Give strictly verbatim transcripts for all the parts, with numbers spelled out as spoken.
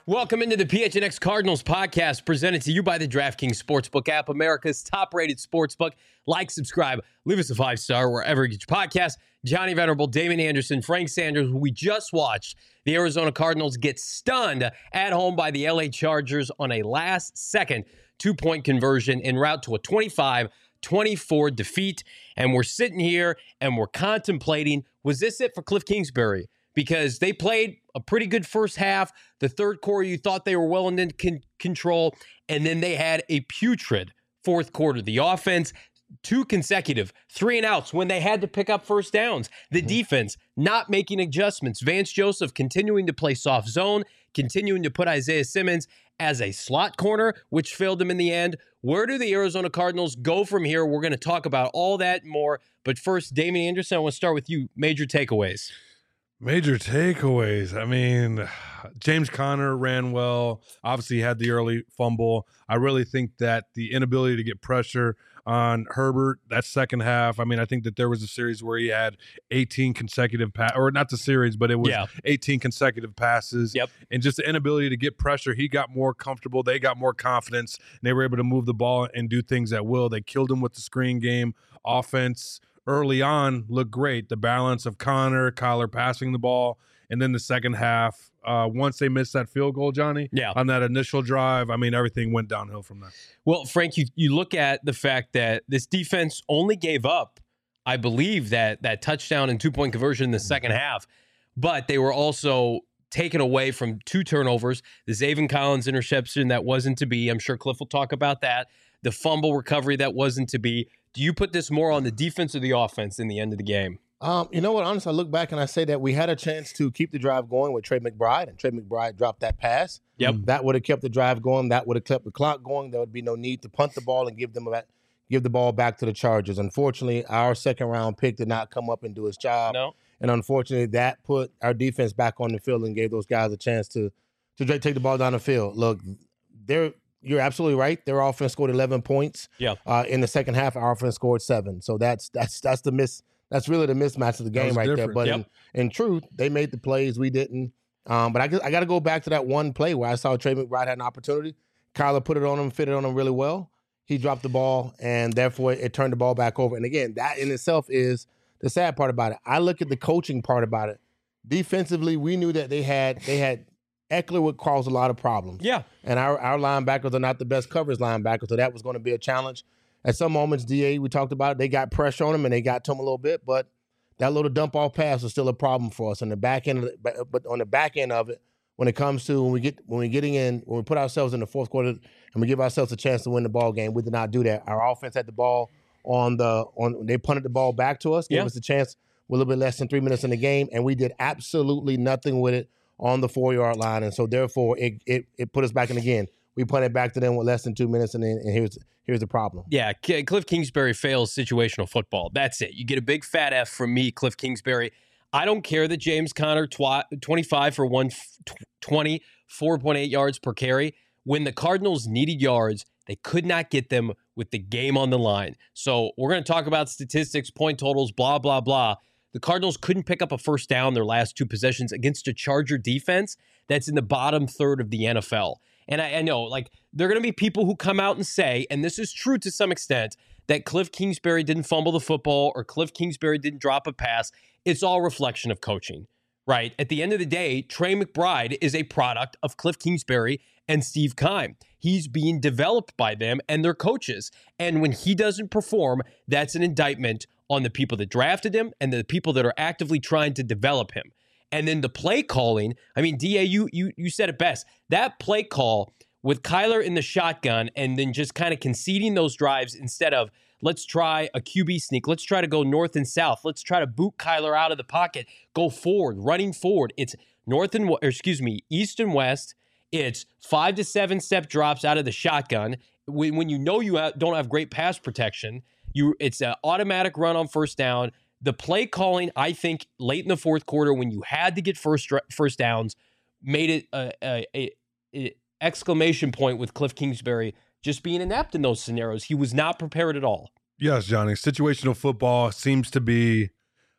Welcome into the P H N X Cardinals podcast, presented to you by the DraftKings Sportsbook app, America's top-rated sportsbook. Like, subscribe, leave us a five-star wherever you get your podcast. Johnny Venerable, Damon Anderson, Frank Sanders. We just watched the Arizona Cardinals get stunned at home by the L A Chargers on a last-second two-point conversion en route to a twenty-five twenty-four defeat. And we're sitting here and we're contemplating, was this it for Cliff Kingsbury? Because they played a pretty good first half. The third quarter, you thought they were well in con- control. And then they had a putrid fourth quarter. The offense, two consecutive three and outs when they had to pick up first downs. The mm-hmm. defense not making adjustments. Vance Joseph continuing to play soft zone, continuing to put Isaiah Simmons as a slot corner, which failed them in the end. Where do the Arizona Cardinals go from here? We're going to talk about all that and more. But first, Damon Anderson, I want to start with you. Major takeaways. Major takeaways. I mean, James Conner ran well. Obviously, he had the early fumble. I really think that the inability to get pressure on Herbert, that second half, I mean, I think that there was a series where he had eighteen consecutive passes, or not the series, but it was yeah. eighteen consecutive passes. Yep. And just the inability to get pressure, he got more comfortable. They got more confidence, and they were able to move the ball and do things at will. They killed him with the screen game. Offense early on looked great. The balance of Connor, Kyler passing the ball, and then the second half, uh, once they missed that field goal, Johnny, yeah. on that initial drive, I mean, everything went downhill from there. Well, Frank, you, you look at the fact that this defense only gave up, I believe, that that touchdown and two-point conversion in the second half, but they were also taken away from two turnovers, the Zaven Collins interception that wasn't to be. I'm sure Cliff will talk about that. The fumble recovery that wasn't to be. Do you put this more on the defense or the offense in the end of the game? Um, you know what? Honestly, I look back and I say that we had a chance to keep the drive going with Trey McBride, and Trey McBride dropped that pass. Yep. That would have kept the drive going. That would have kept the clock going. There would be no need to punt the ball and give them a, give the ball back to the Chargers. Unfortunately, our second-round pick did not come up and do his job. No. And unfortunately, that put our defense back on the field and gave those guys a chance to, to take the ball down the field. Look, they're – you're absolutely right. Their offense scored eleven points. Yeah. Uh, in the second half, our offense scored seven. So that's that's that's the miss. That's really the mismatch of the game right different. there. But yep. in, in truth, they made the plays. We didn't. Um, but I guess, I got to go back to that one play where I saw Trey McBride had an opportunity. Kyler put it on him, fit it on him really well. He dropped the ball, and therefore it turned the ball back over. And again, that in itself is the sad part about it. I look at the coaching part about it. Defensively, we knew that they had they had. Eckler would cause a lot of problems. Yeah. And our, our linebackers are not the best coverage linebackers, so that was going to be a challenge. At some moments, D A, we talked about it, they got pressure on him and they got to him a little bit, but that little dump-off pass was still a problem for us on the back end of the, but on the back end of it, when it comes to when we get when we getting in, when we put ourselves in the fourth quarter and we give ourselves a chance to win the ball game, we did not do that. Our offense had the ball on the on they punted the ball back to us, gave yeah. us a chance with a little bit less than three minutes in the game, and we did absolutely nothing with it on the four-yard line, and so therefore it, it it put us back in again. We punted back to them with less than two minutes, and then and here's here's the problem. Yeah, K- Cliff Kingsbury fails situational football. That's it. You get a big fat F from me, Cliff Kingsbury. I don't care that James Conner, twi- twenty-five for one twenty, four point eight yards per carry. When the Cardinals needed yards, they could not get them with the game on the line. So we're going to talk about statistics, point totals, blah, blah, blah. The Cardinals couldn't pick up a first down their last two possessions against a Charger defense that's in the bottom third of the N F L. And I, I know, like, there are going to be people who come out and say, and this is true to some extent, that Cliff Kingsbury didn't fumble the football or Cliff Kingsbury didn't drop a pass. It's all reflection of coaching, right? At the end of the day, Trey McBride is a product of Cliff Kingsbury and Steve Keim. He's being developed by them and their coaches. And when he doesn't perform, that's an indictment on the people that drafted him and the people that are actively trying to develop him. And then the play calling, I mean, D A, you you you said it best. That play call with Kyler in the shotgun and then just kind of conceding those drives instead of let's try a Q B sneak, let's try to go north and south, let's try to boot Kyler out of the pocket, go forward, running forward. It's north and, or excuse me, east and west. It's five to seven step drops out of the shotgun. When, when you know you have, don't have great pass protection, you it's an automatic run on first down. The play calling, I think, late in the fourth quarter when you had to get first first downs, made it a, a, a, a exclamation point with Cliff Kingsbury just being inept in those scenarios. He was not prepared at all. Yes, Johnny. Situational football seems to be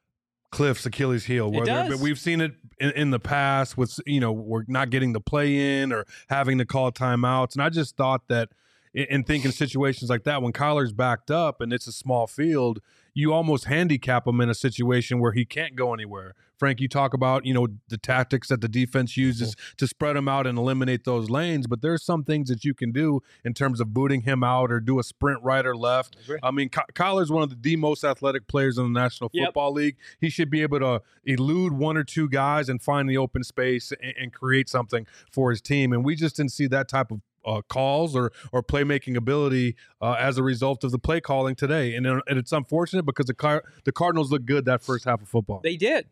Cliff's Achilles heel. It Where there- does. But we've seen it in, in the past with, you know, we're not getting the play in or having to call timeouts. And I just thought that in, in thinking situations like that, when Kyler's backed up and it's a small field, you almost handicap him in a situation where he can't go anywhere. Frank, you talk about, you know, the tactics that the defense uses mm-hmm. to spread him out and eliminate those lanes, but there's some things that you can do in terms of booting him out or do a sprint right or left. I, I mean, Ky- Kyler's one of the, the most athletic players in the National Football yep. League. He should be able to elude one or two guys and find the open space and, and create something for his team. And we just didn't see that type of Uh, calls or or playmaking ability uh, as a result of the play calling today, and, and it's unfortunate because the Car- the Cardinals looked good that first half of football. They did.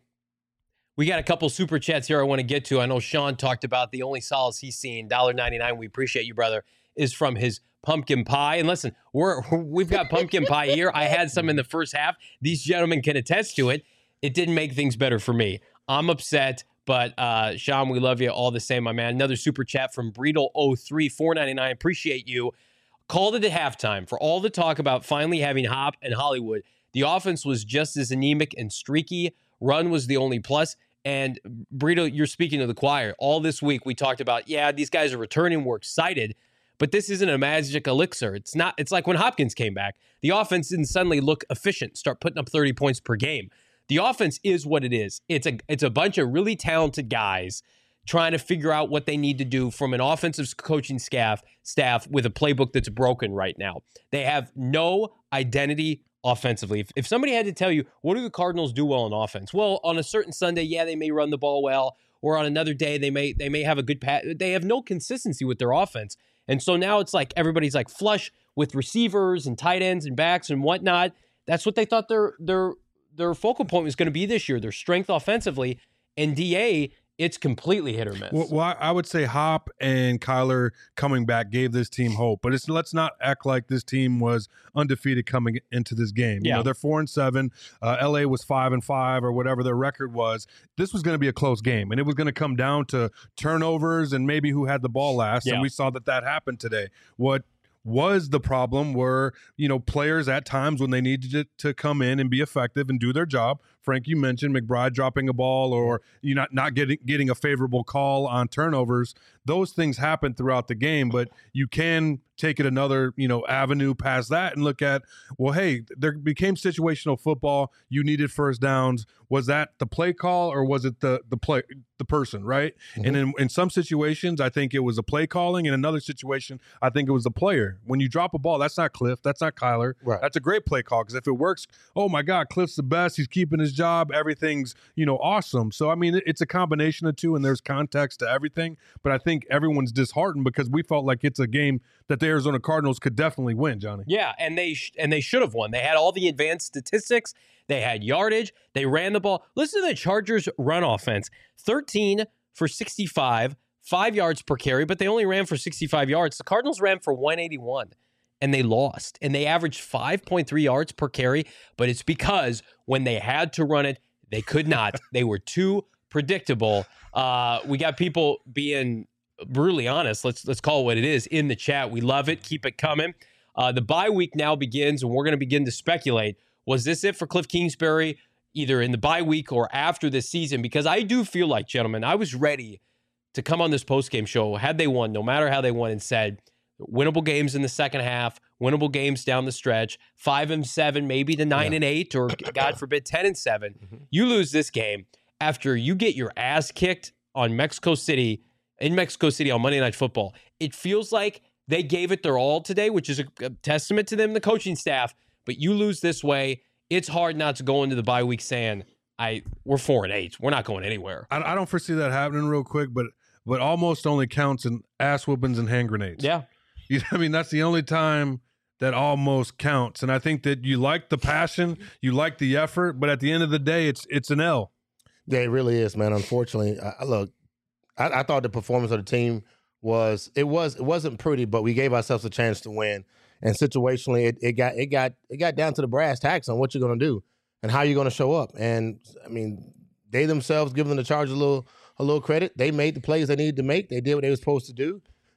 We got a couple super chats here I want to get to. I know Sean talked about the only solace he's seen, one dollar ninety-nine. We appreciate you, brother. Is from his pumpkin pie. And listen, we're we've got pumpkin pie here. I had some in the first half. These gentlemen can attest to it. It didn't make things better for me. I'm upset. But, uh, Sean, we love you all the same, my man. Another super chat from Breedle oh three, four ninety-nine. Appreciate you. Called it at halftime. For all the talk about finally having Hop and Hollywood, the offense was just as anemic and streaky. Run was the only plus. And, Breedle, you're speaking to the choir. All this week we talked about, yeah, these guys are returning. We're excited. But this isn't a magic elixir. It's not. It's like when Hopkins came back. The offense didn't suddenly look efficient, start putting up thirty points per game. The offense is what it is. It's a it's a bunch of really talented guys trying to figure out what they need to do from an offensive coaching staff staff with a playbook that's broken right now. They have no identity offensively. If, if somebody had to tell you, what do the Cardinals do well on offense? Well, on a certain Sunday, yeah, they may run the ball well, or on another day, they may they may have a good pass. They have no consistency with their offense. And so now it's like everybody's like flush with receivers and tight ends and backs and whatnot. That's what they thought their their their focal point was going to be this year, their strength offensively. And D A, it's completely hit or miss. Well, well, I would say Hop and Kyler coming back gave this team hope, but it's let's not act like this team was undefeated coming into this game. Yeah. You know, they're four and seven. Uh, L A was five and five, or whatever their record was. This was going to be a close game, and it was going to come down to turnovers and maybe who had the ball last. Yeah. And we saw that that happened today. What was the problem were, you know, players at times when they needed to, to come in and be effective and do their job. Frank, you mentioned McBride dropping a ball or you not not getting getting a favorable call on turnovers. Those things happen throughout the game, but you can take it another, you know, avenue past that and look at, well, hey, there became situational football. You needed first downs. Was that the play call or was it the the play the person, right? Mm-hmm. And in, in some situations, I think it was a play calling. In another situation, I think it was the player. When you drop a ball, that's not Cliff. That's not Kyler. Right. That's a great play call because if it works, oh my God, Cliff's the best. He's keeping his job. Everything's, you know, awesome. So, I mean, it's a combination of two and there's context to everything. But I think everyone's disheartened because we felt like it's a game that the Arizona Cardinals could definitely win, Johnny. Yeah, and they sh- and they should have won. They had all the advanced statistics. They had yardage. They ran the ball. Listen to the Chargers' run offense. thirteen for sixty-five, five yards per carry, but they only ran for sixty-five yards. The Cardinals ran for one eighty-one, and they lost. And they averaged five point three yards per carry, but it's because when they had to run it, they could not. They were too predictable. Uh, we got people being brutally honest. Let's let's call it what it is in the chat. We love it. Keep it coming. Uh, the bye week now begins, and we're going to begin to speculate. Was this it for Cliff Kingsbury, either in the bye week or after this season? Because I do feel like, gentlemen, I was ready to come on this postgame show, had they won, no matter how they won, and said, winnable games in the second half, winnable games down the stretch, five and seven, maybe to nine yeah. and eight, or God forbid, ten and seven. Mm-hmm. You lose this game after you get your ass kicked on Mexico City, in Mexico City on Monday Night Football. It feels like they gave it their all today, which is a, a testament to them, the coaching staff. But you lose this way, it's hard not to go into the bye week saying, "I we're four and eight, we're not going anywhere." I, I don't foresee that happening real quick, but but almost only counts in ass whoopings and hand grenades. Yeah, you know, I mean that's the only time that almost counts. And I think that you like the passion, you like the effort, but at the end of the day, it's it's an L. Yeah, it really is, man. Unfortunately, I, look, I, I thought the performance of the team was it was it wasn't pretty, but we gave ourselves a chance to win. And situationally, it, it got it got it got down to the brass tacks on what you're going to do and how you're going to show up. And I mean, they themselves, giving the Chargers a little a little credit, they made the plays they needed to make. They did what they were supposed to do.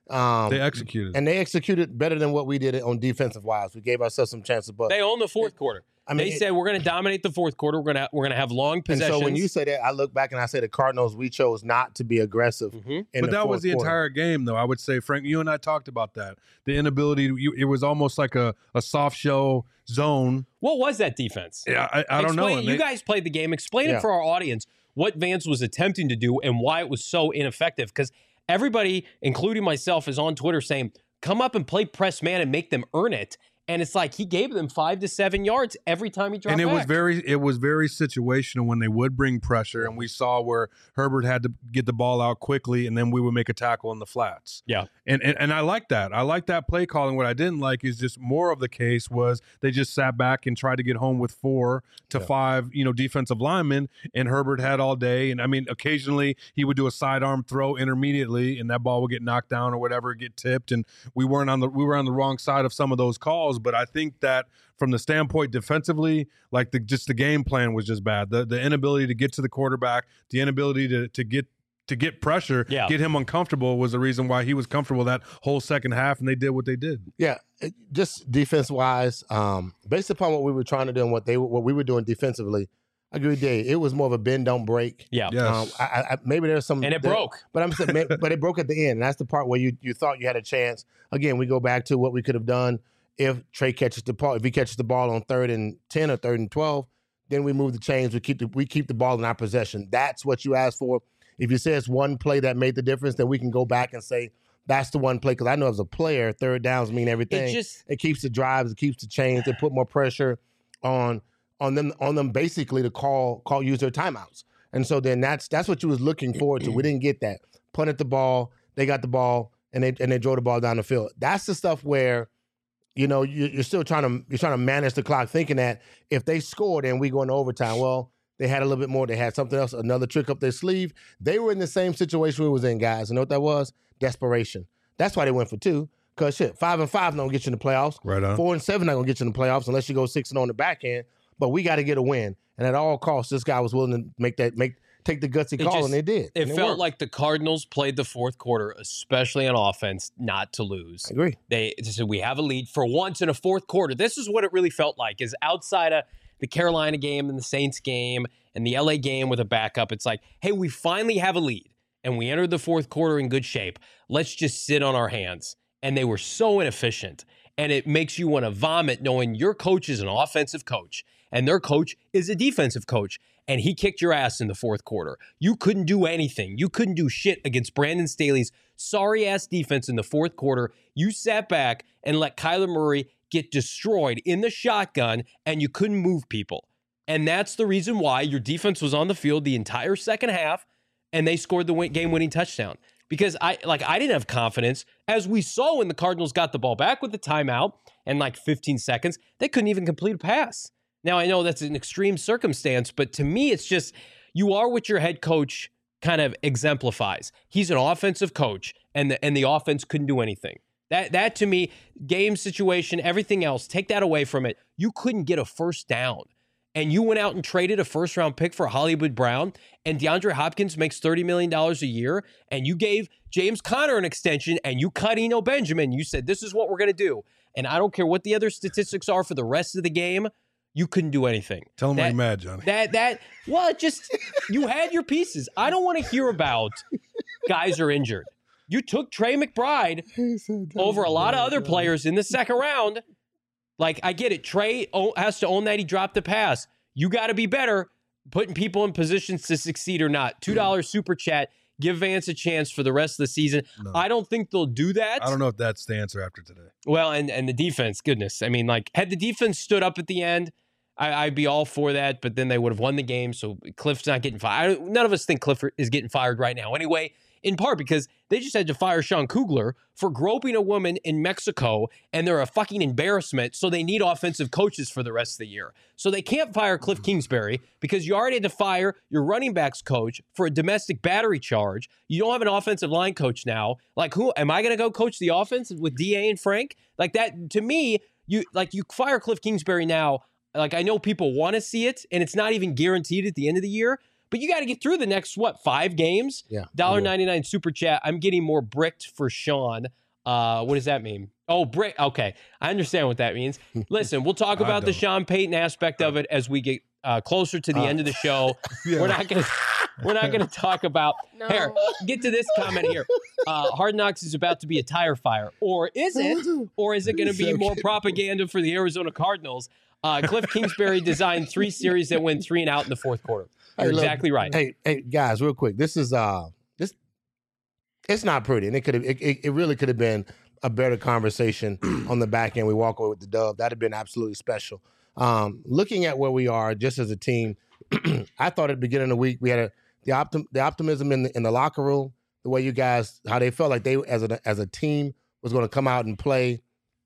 Um, They executed. And they executed better than what we did on defensive wise. We gave ourselves some chances. But they own the fourth quarter. I mean, they it, said we're going to dominate the fourth quarter. We're going to we're going to have long possessions. And so when you say that, I look back and I say the Cardinals, we chose not to be aggressive. Mm-hmm. In but the that was the quarter. entire game, though. I would say, Frank, you and I talked about that. The inability, to, you, it was almost like a, a soft shell zone. What was that defense? Yeah, I, I don't Explain, know. You And they- guys played the game. Explain Yeah. it for our audience what Vance was attempting to do and why it was so ineffective. Because everybody, including myself, is on Twitter saying, come up and play press man and make them earn it. And it's like he gave them five to seven yards every time he dropped and it back. was very it was very situational when they would bring pressure, and we saw where Herbert had to get the ball out quickly, and then we would make a tackle in the flats. Yeah. And and, and I like that. I like that play calling. What I didn't like is just more of the case was they just sat back and tried to get home with four to Yeah. five, you know, defensive linemen, and Herbert had all day. And I mean, occasionally he would do a sidearm throw intermediately, and that ball would get knocked down or whatever, get tipped, and we weren't on the we were on the wrong side of some of those calls. But I think that from the standpoint defensively, like the just the game plan was just bad. The the inability to get to the quarterback, the inability to to get to get pressure, Yeah. get him uncomfortable was the reason why he was comfortable that whole second half, and they did what they did. Yeah, it- just defense wise, um, based upon what we were trying to do and what they what we were doing defensively, I agree with Dave. It was more of a bend don't break. Yeah. Yes. Um, I, I, maybe there's some And it there- broke. but I'm saying, ma- but it broke at the end, and that's the part where you you thought you had a chance. Again, we go back to what we could have done if Trey catches the ball. If he catches the ball on third and ten or third and twelve, then we move the chains. We keep the we keep the ball in our possession. That's what you asked for. If you say it's one play that made the difference, then we can go back and say that's the one play. Because I know as a player, third downs mean everything. It just It keeps the drives, it keeps the chains, it put more pressure on on them on them basically to call call use their timeouts. And so then that's that's what you was looking forward to. We didn't get that. Punted the ball, they got the ball, and they and they drove the ball down the field. That's the stuff where, you know, you, you're still trying to you're trying to manage the clock, thinking that if they scored and we go into overtime, well, they had a little bit more. They had something else, another trick up their sleeve. They were in the same situation we was in, guys. You know what that was? Desperation. That's why they went for two. Cause shit, five and five not gonna get you in the playoffs. Right on. Four and seven not gonna get you in the playoffs unless you go six and on the back end. But we got to get a win, and at all costs, this guy was willing to make that make take the gutsy It call, just- and they did. it and felt worked. like the Cardinals played the fourth quarter, especially on offense, not to lose. I agree. They said we have a lead for once in a fourth quarter. This is what it really felt like. Is outside of the Carolina game and the Saints game and the L A game with a backup, it's like, hey, we finally have a lead and we entered the fourth quarter in good shape. Let's just sit on our hands. And they were so inefficient. And it makes you want to vomit knowing your coach is an offensive coach and their coach is a defensive coach. And he kicked your ass in the fourth quarter. You couldn't do anything. You couldn't do shit against Brandon Staley's sorry-ass defense in the fourth quarter. You sat back and let Kyler Murray get destroyed in the shotgun, and you couldn't move people. And that's the reason why your defense was on the field the entire second half, and they scored the win- game-winning touchdown. Because I like I didn't have confidence, as we saw when the Cardinals got the ball back with the timeout and like fifteen seconds, they couldn't even complete a pass. Now, I know that's an extreme circumstance, but to me, it's just you are what your head coach kind of exemplifies. He's an offensive coach, and the, and the offense couldn't do anything. That, that to me, game situation, everything else, take that away from it. You couldn't get a first down. And you went out and traded a first-round pick for Hollywood Brown, and DeAndre Hopkins makes thirty million dollars a year, and you gave James Conner an extension, and you cut Eno Benjamin. You said, this is what we're going to do. And I don't care what the other statistics are for the rest of the game, you couldn't do anything. Tell them why That- you're mad, Johnny. That, that, well, it just, you had your pieces. I don't want to hear about guys are injured. You took Trey McBride over a lot of other players in the second round. Like, I get it. Trey o- has to own that he dropped the pass. You got to be better putting people in positions to succeed or not. two dollars super chat. Give Vance a chance for the rest of the season. No. I don't think they'll do that. I don't know if that's the answer after today. Well, and, and the defense, goodness. I mean, like, had the defense stood up at the end, I, I'd be all for that, but then they would have won the game, so Cliff's not getting fired. None of us think Cliff is getting fired right now anyway, in part because they just had to fire Sean Kugler for groping a woman in Mexico, and they're a fucking embarrassment, so they need offensive coaches for the rest of the year. So they can't fire Cliff Kingsbury because you already had to fire your running backs coach for a domestic battery charge. You don't have an offensive line coach now. Like, who am I going to go coach the offense with D A and Frank? Like, that, to me, you like you fire Cliff Kingsbury now. Like, I know people want to see it, and it's not even guaranteed at the end of the year, But you got to get through the next, what, five games? Yeah. one dollar ninety-nine super chat. I'm getting more bricked for Sean. Uh, what does that mean? Oh, brick. Okay. I understand what that means. Listen, we'll talk about the Sean Payton aspect of it as we get uh, closer to the uh, end of the show. Yeah. We're not going to we're not going to talk about no. Here, get to this comment here. Uh, Hard Knocks is about to be a tire fire. Or is it? Or is it going to be more propaganda for the Arizona Cardinals? Uh, Cliff Kingsbury designed three series that went three and out in the fourth quarter. You're hey, exactly look, right. Hey, hey, guys, real quick. This is uh, this. It's not pretty, and it could have. It, it, it really could have been a better conversation on the back end. We walk away with the dub. That'd have been absolutely special. Um, looking at where we are, just as a team, I thought at the beginning of the week we had a, the optim, the optimism in the in the locker room. The way you guys, how they felt like they as a as a team was going to come out and play.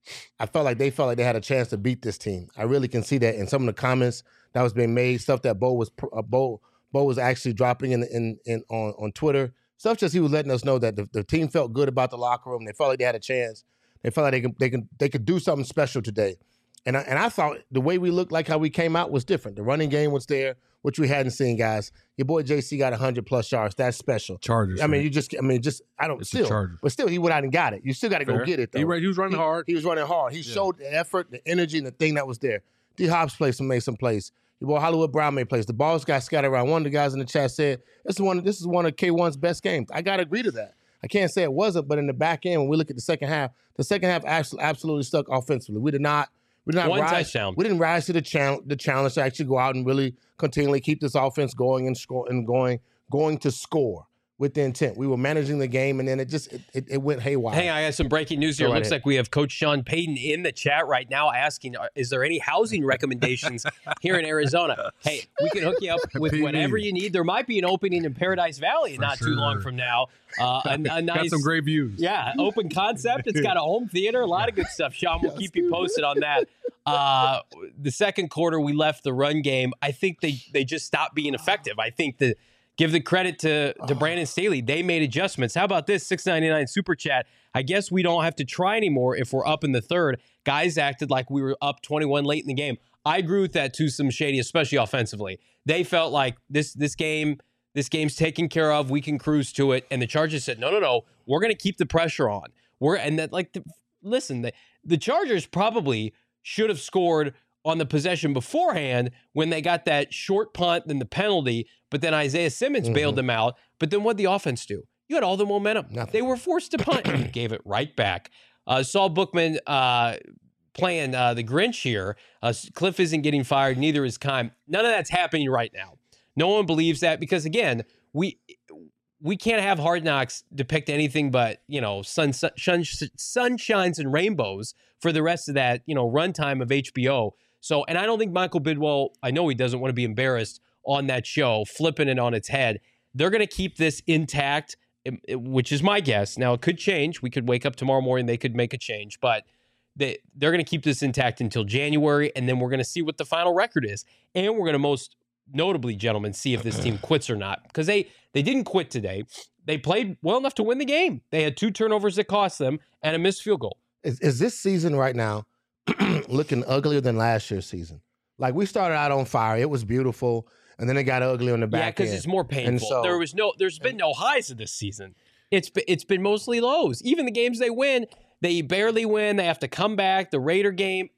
I felt like they felt like they had a chance to beat this team. I really can see that in some of the comments that was being made, stuff that Bo was uh, Bo Bo was actually dropping in in, in on, on Twitter. Stuff just he was letting us know that the, the team felt good about the locker room. They felt like they had a chance. They felt like they could they could they could do something special today. And I, and I thought the way we looked, like how we came out, was different. The running game was there, which we hadn't seen, guys. Your boy J C got one hundred plus yards. That's special. Chargers. I mean, right? you just, I mean, just, I don't, it's still, but still, he went out and got it. You still got to go get it, though. He, he was running he, hard. He was running hard. He yeah. showed the effort, the energy, and the thing that was there. D. Hobbs played some, made some plays. Your boy Hollywood Brown made plays. The balls got scattered around. One of the guys in the chat said, this is one, this is one of K one's best games. I got to agree to that. I can't say it wasn't, but in the back end, when we look at the second half, the second half actually absolutely stuck offensively. We did not, we did not One rise. touchdown. We didn't rise to the challenge, the challenge to actually go out and really continually keep this offense going and score and going, going to score with the intent. We were managing the game, and then it just it, it, it went haywire. Hey, I got some breaking news here. It looks like we have Coach Sean Payton in the chat right now asking, is there any housing recommendations here in Arizona? Hey, we can hook you up with whatever you need. There might be an opening in Paradise Valley For not sure. too long from now. Uh, a, a nice, got some great views. Yeah, open concept. It's got a home theater, a lot of good stuff. Sean, we'll keep you posted on that. Uh, the second quarter, we left the run game. I think they, they just stopped being effective. I think the Give the credit to, to Brandon Staley. They made adjustments. How about this? six ninety-nine super chat. I guess we don't have to try anymore if we're up in the third. Guys acted like we were up twenty-one late in the game. I agree with that to some shady, especially offensively. They felt like this this game, this game's taken care of. We can cruise to it. And the Chargers said, no, no, no. We're going to keep the pressure on. We're and that like the, listen, the, the Chargers probably should have scored on the possession beforehand when they got that short punt, then the penalty, but then Isaiah Simmons mm-hmm. bailed them out. But then what'd the offense do? You had all the momentum. Nothing. They were forced to punt, and you gave it right back. Uh, Saul Bookman uh, playing uh, the Grinch here. Uh, Cliff isn't getting fired, neither is Kime. None of that's happening right now. No one believes that because, again, we we can't have Hard Knocks depict anything but, you know, sun, sun, sunshines and rainbows for the rest of that, you know, runtime of H B O. So, and I don't think Michael Bidwell, I know he doesn't want to be embarrassed on that show, flipping it on its head. They're going to keep this intact, which is my guess. Now, it could change. We could wake up tomorrow morning, they could make a change, but they, they're going to keep this intact until January, and then we're going to see what the final record is. And we're going to most notably, gentlemen, see if this team quits or not. Because they, they didn't quit today. They played well enough to win the game. They had two turnovers that cost them and a missed field goal. Is, is this season right now looking uglier than last year's season? Like, we started out on fire. It was beautiful. And then it got ugly on the back end. Yeah, because it's more painful. So, there was no, there's been no highs of this season. It's been, it's been mostly lows. Even the games they win, they barely win. They have to come back. The Raider game,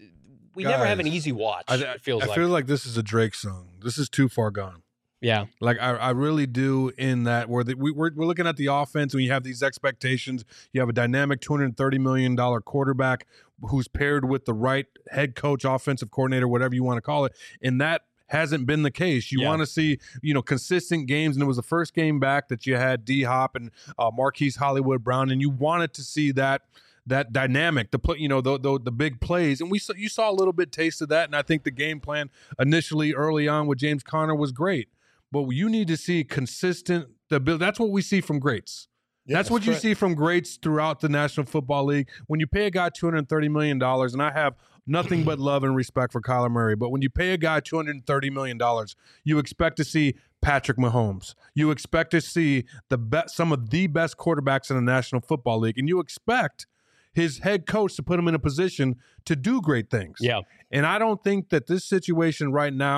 we Guys, never have an easy watch. I, it feels I like. feel like this is a Drake song. This is Too Far Gone. Yeah, like I, I really do. In that, where the, we, we're we're looking at the offense when you have these expectations. You have a dynamic two hundred thirty million dollar quarterback who's paired with the right head coach, offensive coordinator, whatever you want to call it, and that hasn't been the case. You yeah. want to see, you know, consistent games, and it was the first game back that you had D Hop and uh, Marquise Hollywood Brown, and you wanted to see that that dynamic, the play, you know, the, the the big plays, and we saw, you saw a little bit taste of that, and I think the game plan initially early on with James Conner was great, but you need to see consistent. The that's what we see from greats. Yeah, that's, that's what correct. you see from greats throughout the National Football League. When you pay a guy two hundred thirty million dollars, and I have nothing but love and respect for Kyler Murray, but when you pay a guy two hundred thirty million dollars, you expect to see Patrick Mahomes. You expect to see the best, some of the best quarterbacks in the National Football League, and you expect his head coach to put him in a position to do great things. Yeah. And I don't think that this situation right now,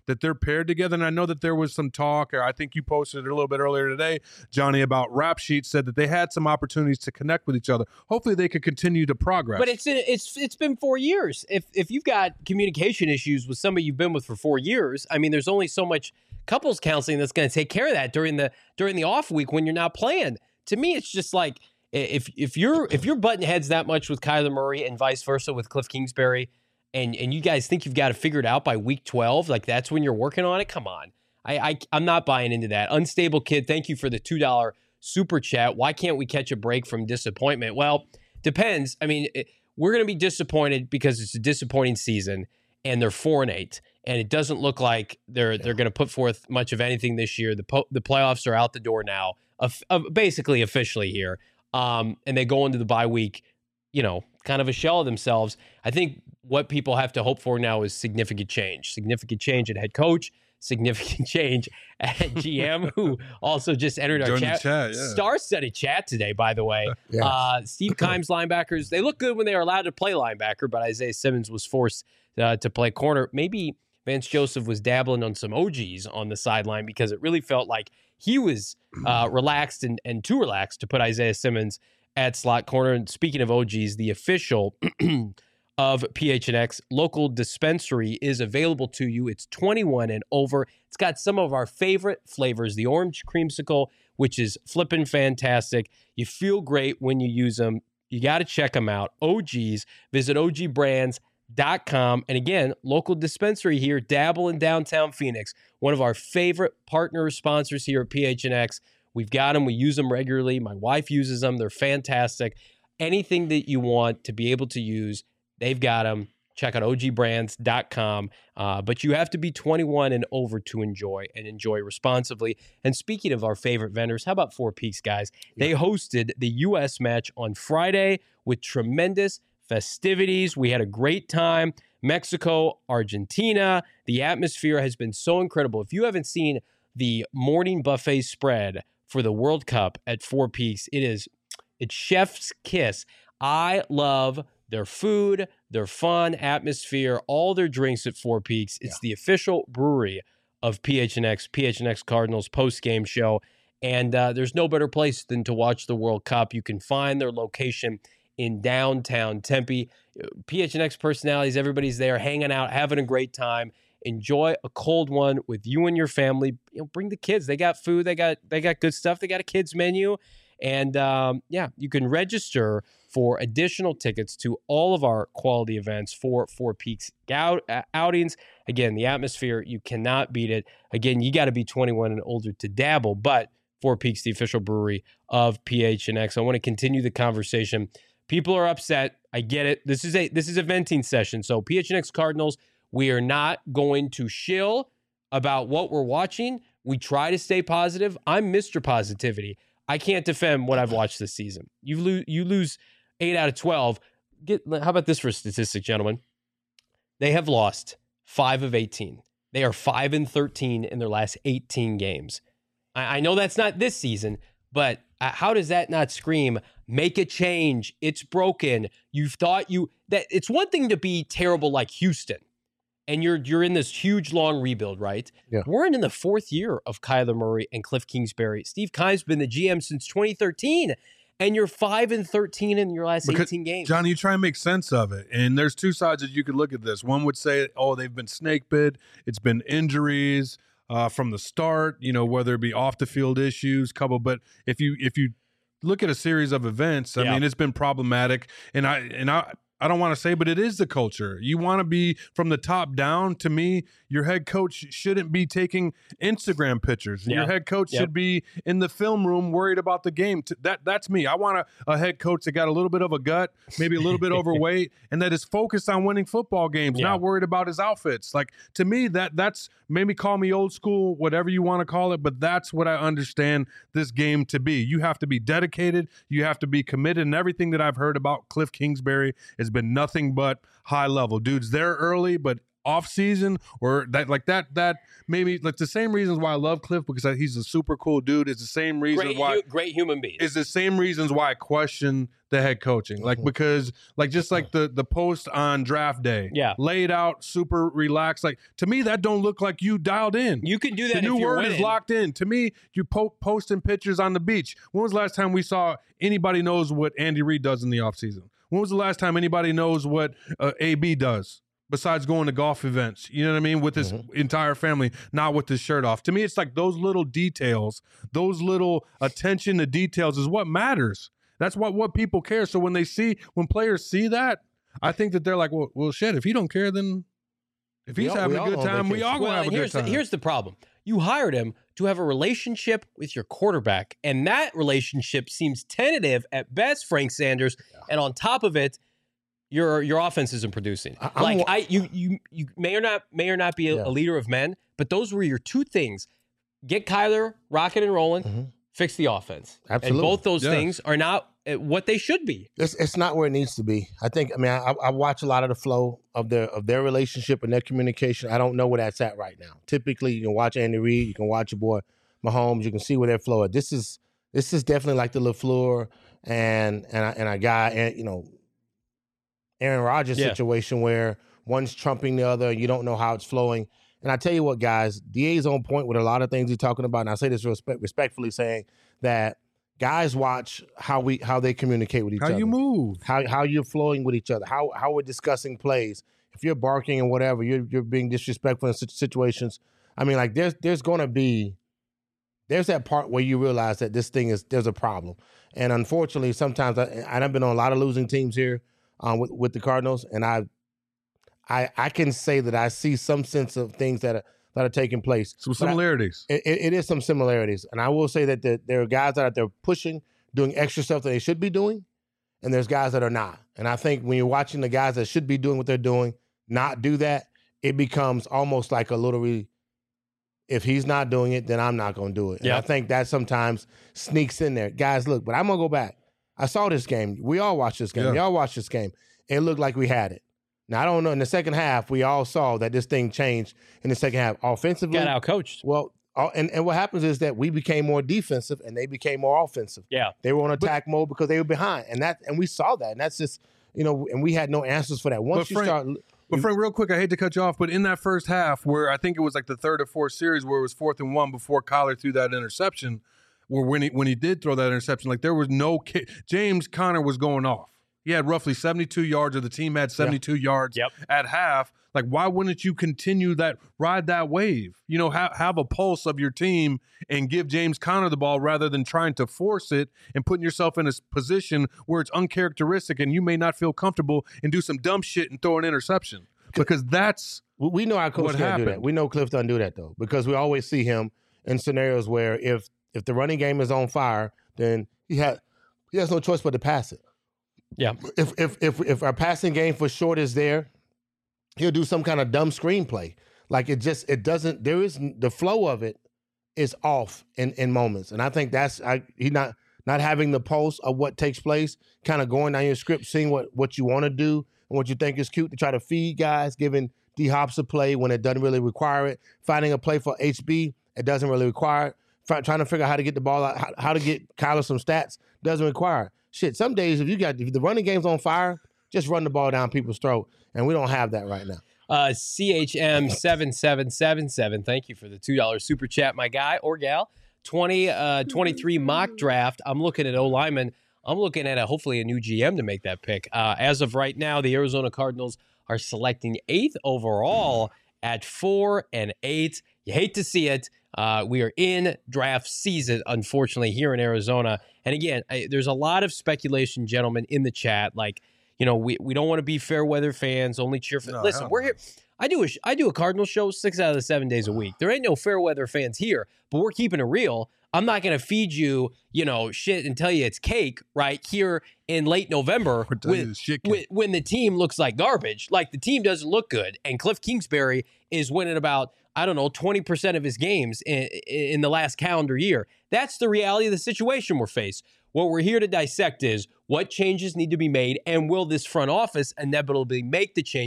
that they're paired together. And I know that there was some talk, or I think you posted it a little bit earlier today, Johnny, about Rap Sheet said that they had some opportunities to connect with each other. Hopefully they could continue to progress. But it's it's it's been four years. If if you've got communication issues with somebody you've been with for four years, I mean, there's only so much couples counseling that's going to take care of that during the during the off week when you're not playing. To me, it's just like if if you're if you're butting heads that much with Kyler Murray and vice versa with Cliff Kingsbury, and and you guys think you've got it figured out by week twelve, like that's when you're working on it. Come on, I, I I'm not buying into that. Unstable Kid, thank you for the two dollar super chat. Why can't we catch a break from disappointment? Well, depends. I mean, it, we're going to be disappointed because it's a disappointing season, and they're four and eight, and it doesn't look like they're yeah. they're going to put forth much of anything this year. The po- the playoffs are out the door now, of, of basically officially here, um, and they go into the bye week, you know, kind of a shell of themselves. I think what people have to hope for now is significant change, significant change at head coach, significant change at G M, who also just entered our chat. chat yeah. Star-studded chat today, by the way. Yes. Uh, Steve Kimes linebackers, they look good when they are allowed to play linebacker, but Isaiah Simmons was forced uh, to play corner. Maybe Vance Joseph was dabbling on some O Gs on the sideline because it really felt like he was uh, relaxed and, and too relaxed to put Isaiah Simmons at slot corner. And speaking of O Gs, the official of P H N X local dispensary is available to you. It's twenty-one and over. It's got some of our favorite flavors, the orange creamsicle, which is flipping fantastic. You feel great when you use them. You got to check them out. O Gs. Visit O G brands dot com. And again, local dispensary here, Dabble in downtown Phoenix. One of our favorite partner sponsors here at P H N X. We've got them. We use them regularly. My wife uses them. They're fantastic. Anything that you want to be able to use, they've got them. Check out O G brands dot com. Uh, but you have to be twenty-one and over to enjoy and enjoy responsibly. And speaking of our favorite vendors, how about Four Peaks, guys? They hosted the U S match on Friday with tremendous festivities. We had a great time. Mexico, Argentina. The atmosphere has been so incredible. If you haven't seen the morning buffet spread for the World Cup at Four Peaks, it is it's chef's kiss. I love their food, their fun atmosphere, all their drinks at Four Peaks. It's yeah. the official brewery of P H N X, P H N X Cardinals post-game show. And uh, there's no better place than to watch the World Cup. You can find their location in downtown Tempe. P H N X personalities, everybody's there hanging out, having a great time. Enjoy a cold one with you and your family. You know, bring the kids. They got food. They got they got good stuff. They got a kids menu. And um, yeah, you can register for additional tickets to all of our quality events for Four Peaks out, uh, outings. Again, the atmosphere, you cannot beat it. Again, you got to be twenty-one and older to dabble, but Four Peaks, the official brewery of P H N X. I want to continue the conversation. People are upset. I get it. This is a this is a venting session. So P H N X Cardinals, we are not going to shill about what we're watching. We try to stay positive. I'm Mister Positivity. I can't defend what I've watched this season. You lose you lose eight out of twelve. Get how about this for a statistic, gentlemen? They have lost five of eighteen. They are five and thirteen in their last eighteen games. I, I know that's not this season, but uh, how does that not scream, make a change? It's broken. You've thought you that it's one thing to be terrible like Houston, and you're you're in this huge long rebuild, right? Yeah. We're in the fourth year of Kyler Murray and Cliff Kingsbury. Steve Kimes been the G M since twenty thirteen, and you're five and thirteen in your last because, eighteen games. Johnny, you try and make sense of it, and there's two sides that you could look at this. One would say, oh, they've been snake bit. It's been injuries uh, from the start. You know, whether it be off the field issues, couple. But if you if you look at a series of events, I yeah. mean, it's been problematic, and I and I. I don't want to say, but it is the culture. You want to be from the top down. To me, your head coach shouldn't be taking Instagram pictures. Yeah. Your head coach yep. should be in the film room worried about the game. That That's me. I want a, a head coach that got a little bit of a gut, maybe a little bit overweight, and that is focused on winning football games, yeah. not worried about his outfits. Like, to me, that that's maybe call me old school, whatever you want to call it, but that's what I understand this game to be. You have to be dedicated. You have to be committed, and everything that I've heard about Cliff Kingsbury is has been nothing but high level. Dude's there early, but off season or that like that that maybe like the same reasons why I love Cliff because he's a super cool dude. It's the same reason great, why hu- great human being. It's the same reasons why I question the head coaching. Like because like just like the the post on draft day, Yeah. laid out, super relaxed. Like to me, that don't look like you dialed in. You can do that. The new if you're word winning. is locked in. To me, you po- posting pictures on the beach. When was the last time we saw anybody knows what Andy Reid does in the offseason? When was the last time anybody knows what uh, A B does besides going to golf events? You know what I mean? With his Mm-hmm. entire family, not with his shirt off. To me, it's like those little details, those little attention to details is what matters. That's what, what people care. So when they see, when players see that, I think that they're like, well, well shit, if he don't care, then if We he's all- having we a all good on time, we vacation. all going Well, to have a and good here's the, time. here's the problem. You hired him to have a relationship with your quarterback, and that relationship seems tentative at best, Frank Sanders. And on top of it, your your offense isn't producing. I- I'm like wa- I, you you you may or not may or not be a, Yeah. a leader of men, but those were your two things: get Kyler rocking and rolling, Mhm. fix the offense. Absolutely. And both those Yes. things are not uh, what they should be. It's it's not where it needs to be. I think. I mean, I, I watch a lot of the flow of their of their relationship and their communication. I don't know where that's at right now. Typically, you can watch Andy Reid, you can watch your boy Mahomes, you can see where their flow is. This is this is definitely like the LaFleur and and a, and a guy and you know Aaron Rodgers Yeah. situation where one's trumping the other. You don't know how it's flowing. And I tell you what, guys, D A's on point with a lot of things he's talking about. And I say this respect, respectfully, saying that guys watch how we how they communicate with each How other, you move. how how you're flowing with each other, how how we're discussing plays. If you're barking and whatever, you're you're being disrespectful in such situations. I mean, like there's there's going to be there's that part where you realize that this thing is there's a problem. And unfortunately, sometimes I, and I've been on a lot of losing teams here um, with with the Cardinals, and I I I can say that I see some sense of things that are that are taking place. Some But I- similarities. it, it is some similarities, and I will say that the, there are guys out there pushing, doing extra stuff that they should be doing, and there's guys that are not. And I think when you're watching the guys that should be doing what they're doing not do that, it becomes almost like a little. Re- if he's not doing it, then I'm not going to do it. And Yeah. I think that sometimes sneaks in there, guys. Look, but I'm gonna go back. I saw this game. We all watched this game. Yeah. We all watched this game. It looked like we had it. Now I don't know. In the second half, we all saw that this thing changed in the second half offensively. Got out coached. Well, all- and, and what happens is that we became more defensive and they became more offensive. Yeah. They were on attack mode because they were behind, and that and we saw that, and that's just you know, and we had no answers for that. Once But you Frank- start, But Frank, real quick, I hate to cut you off, but in that first half, where I think it was like the third or fourth series, where it was fourth and one before Kyler threw that interception, where when he when he did throw that interception, like there was no ki- James Conner was going off. He had roughly seventy-two yards, or the team had seventy-two yards Yep. at half. Like, why wouldn't you continue that, ride that wave? You know, have have a pulse of your team and give James Conner the ball rather than trying to force it and putting yourself in a s- position where it's uncharacteristic and you may not feel comfortable and do some dumb shit and throw an interception. Because that's we- we know our coach What can't do that. happened? We know Cliff doesn't do that though, because we always see him in scenarios where if if the running game is on fire, then he had he has no choice but to pass it. Yeah. If if if if our passing game for short is there, he'll do some kind of dumb screenplay. Like it just it doesn't. There is the flow of it is off in in moments, and I think that's I he not not having the pulse of what takes place, kind of going down your script, seeing what what you want to do and what you think is cute to try to feed guys, giving D Hops a play when it doesn't really require it, finding a play for H B it doesn't really require it, Fi- trying to figure out how to get the ball out, how, how to get Kyler some stats doesn't require it. Shit, some days if you got if the running game's on fire, just run the ball down people's throat, and we don't have that right now. Uh, C H M seven seven seven seven. Thank you for the two dollars super chat, my guy or gal. twenty twenty-three mock draft. I'm looking at O lineman. I'm looking at a, hopefully a new G M to make that pick. Uh, as of right now, the Arizona Cardinals are selecting eighth overall at four and eight. You hate to see it. Uh, we are in draft season, unfortunately, here in Arizona. And again, I, there's a lot of speculation, gentlemen, in the chat. Like, you know, we, we don't want to be fair weather fans, only cheer for. No, Listen, hell we're no. here. I do a sh- I do a Cardinal show six out of the seven days a week. There ain't no fair weather fans here, but we're keeping it real. I'm not going to feed you, you know, shit and tell you it's cake right here in late November We're telling you when, it's shit cake. when, when the team looks like garbage. Like the team doesn't look good. And Cliff Kingsbury is winning about, I don't know, twenty percent of his games in, in the last calendar year. That's the reality of the situation we're faced. What we're here to dissect is what changes need to be made and will this front office inevitably make the changes?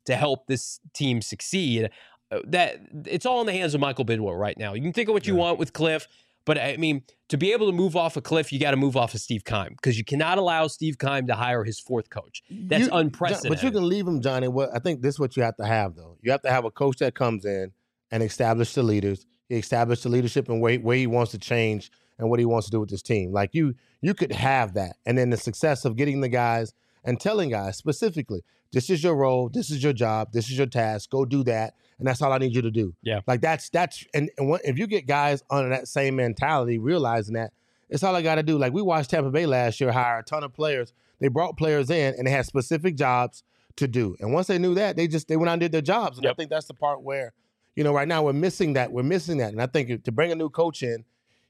to help this team succeed. Uh, that it's all in the hands of Michael Bidwell right now. You can think of what you Yeah. want with Cliff, but I mean, to be able to move off of Cliff, you got to move off of Steve Keim because you cannot allow Steve Keim to hire his fourth coach. That's You- unprecedented. But you can leave him, Johnny. What I think this is what you have to have, though. You have to have a coach that comes in and establish the leaders. He established the leadership and where, where he wants to change and what he wants to do with this team. Like you, you could have that, and then the success of getting the guys and telling guys specifically, this is your role, this is your job, this is your task. Go do that, and that's all I need you to do. Yeah. Like that's that's and, and what, if you get guys under that same mentality, realizing that it's all I got to do. Like we watched Tampa Bay last year hire a ton of players. They brought players in and they had specific jobs to do. And once they knew that, they just they went out and did their jobs. And Yep. I think that's the part where, you know, right now we're missing that. We're missing that. And I think to bring a new coach in,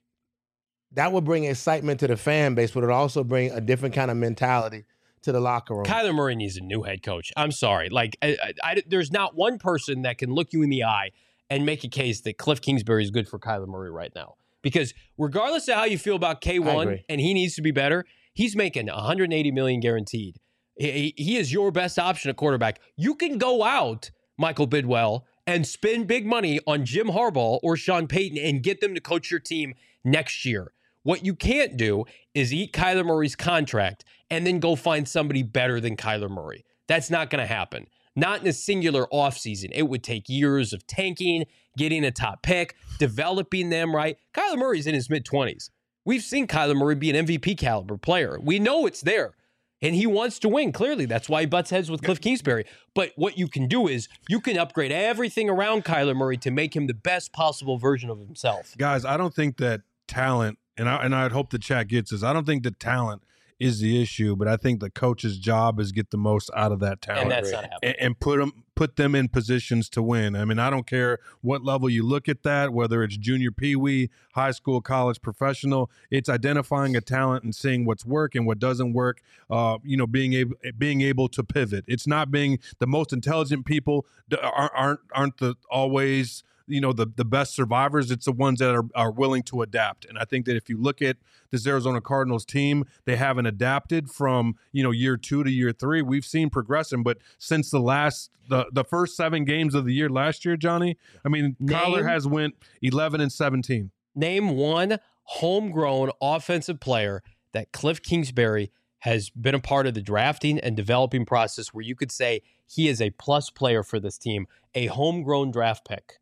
that would bring excitement to the fan base, but it would also bring a different kind of mentality to the locker room. Kyler Murray needs a new head coach. I'm sorry. Like, I, I, I, there's not one person that can look you in the eye and make a case that Cliff Kingsbury is good for Kyler Murray right now. Because regardless of how you feel about K one agree. and he needs to be better, he's making one hundred eighty million dollars guaranteed. He, he is your best option at quarterback. You can go out, Michael Bidwell, and spend big money on Jim Harbaugh or Sean Payton and get them to coach your team next year. What you can't do is eat Kyler Murray's contract and then go find somebody better than Kyler Murray. That's not going to happen. Not in a singular offseason. It would take years of tanking, getting a top pick, developing them right. Kyler Murray's in his mid-twenties. We've seen Kyler Murray be an M V P caliber player. We know it's there. And he wants to win, clearly. That's why he butts heads with Cliff Kingsbury. But what you can do is you can upgrade everything around Kyler Murray to make him the best possible version of himself. Guys, I don't think that talent, and I and I'd hope the chat gets this. I don't think that talent is the issue, but I think the coach's job is get the most out of that talent And that's not happening. and, and put them put them in positions to win. I mean, I don't care what level you look at that, whether it's junior, peewee, high school, college, professional. It's identifying a talent and seeing what's working, what doesn't work. Uh, you know, being able being able to pivot. It's not being the most intelligent people aren't aren't, aren't the always. You know, the the best survivors. It's the ones that are, are willing to adapt. And I think that if you look at this Arizona Cardinals team, they haven't adapted from, you know, year two to year three. We've seen progression, but since the last, the, the first seven games of the year last year, Johnny, I mean, Name- Kyler has went eleven and seventeen. Name one homegrown offensive player that Cliff Kingsbury has been a part of the drafting and developing process where you could say he is a plus player for this team, a homegrown draft pick.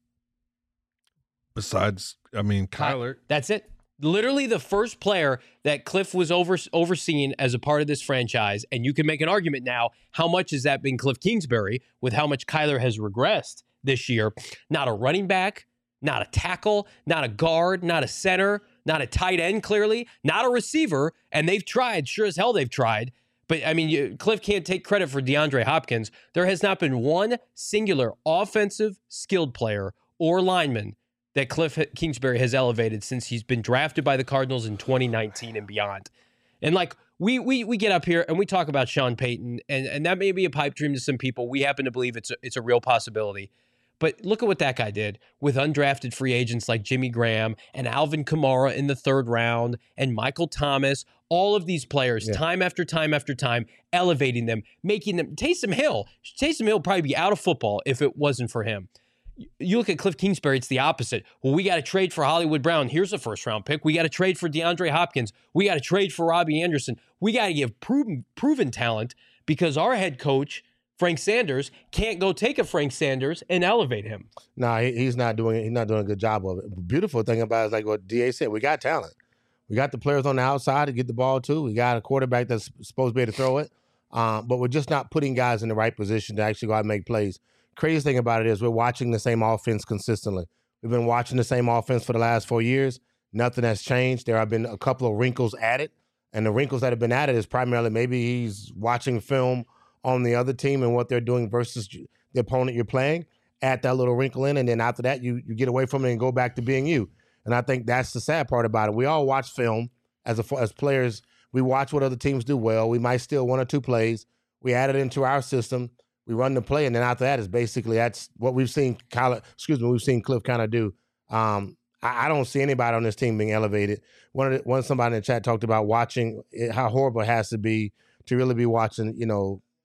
Besides, I mean, Kyler. That's it. Literally the first player that Cliff was over, overseeing as a part of this franchise. And you can make an argument now, how much has that been Cliff Kingsbury with how much Kyler has regressed this year? Not a running back, not a tackle, not a guard, not a center, not a tight end, clearly, not a receiver. And they've tried. Sure as hell they've tried. But, I mean, you, Cliff can't take credit for DeAndre Hopkins. There has not been one singular offensive skilled player or lineman that Cliff Kingsbury has elevated since he's been drafted by the Cardinals in twenty nineteen and beyond. And like we we we get up here and we talk about Sean Payton, and, and that may be a pipe dream to some people. We happen to believe it's a, it's a real possibility. But look at what that guy did with undrafted free agents like Jimmy Graham and Alvin Kamara in the third round and Michael Thomas, all of these players, Yeah. time after time after time, elevating them, making them. Taysom Hill, Taysom Hill would probably be out of football if it wasn't for him. You look at Cliff Kingsbury, it's the opposite. Well, we got to trade for Hollywood Brown. Here's a first round pick. We got to trade for DeAndre Hopkins. We got to trade for Robbie Anderson. We got to give proven, proven talent because our head coach, Frank Sanders, can't go take a Frank Sanders and elevate him. No, he, he's not doing he's not doing a good job of it. The beautiful thing about it is like what D A said, we got talent. We got the players on the outside to get the ball to. We got a quarterback that's supposed to be able to throw it. Um, but we're just not putting guys in the right position to actually go out and make plays. Crazy thing about it is we're watching the same offense consistently. We've been watching the same offense for the last four years. Nothing has changed. There have been a couple of wrinkles added. And the wrinkles that have been added is primarily maybe he's watching film on the other team and what they're doing versus the opponent you're playing. Add that little wrinkle in, and then after that, you you get away from it and go back to being you. And I think that's the sad part about it. We all watch film as a, as players. We watch what other teams do well. We might steal one or two plays. We add it into our system. We run the play, and then after that is basically that's what we've seen. Kyle, excuse me, we've seen Cliff kind of do. Um, I, I don't see anybody on this team being elevated. One of the, one somebody in the chat talked about watching it, how horrible it has to be to really be watching, you know,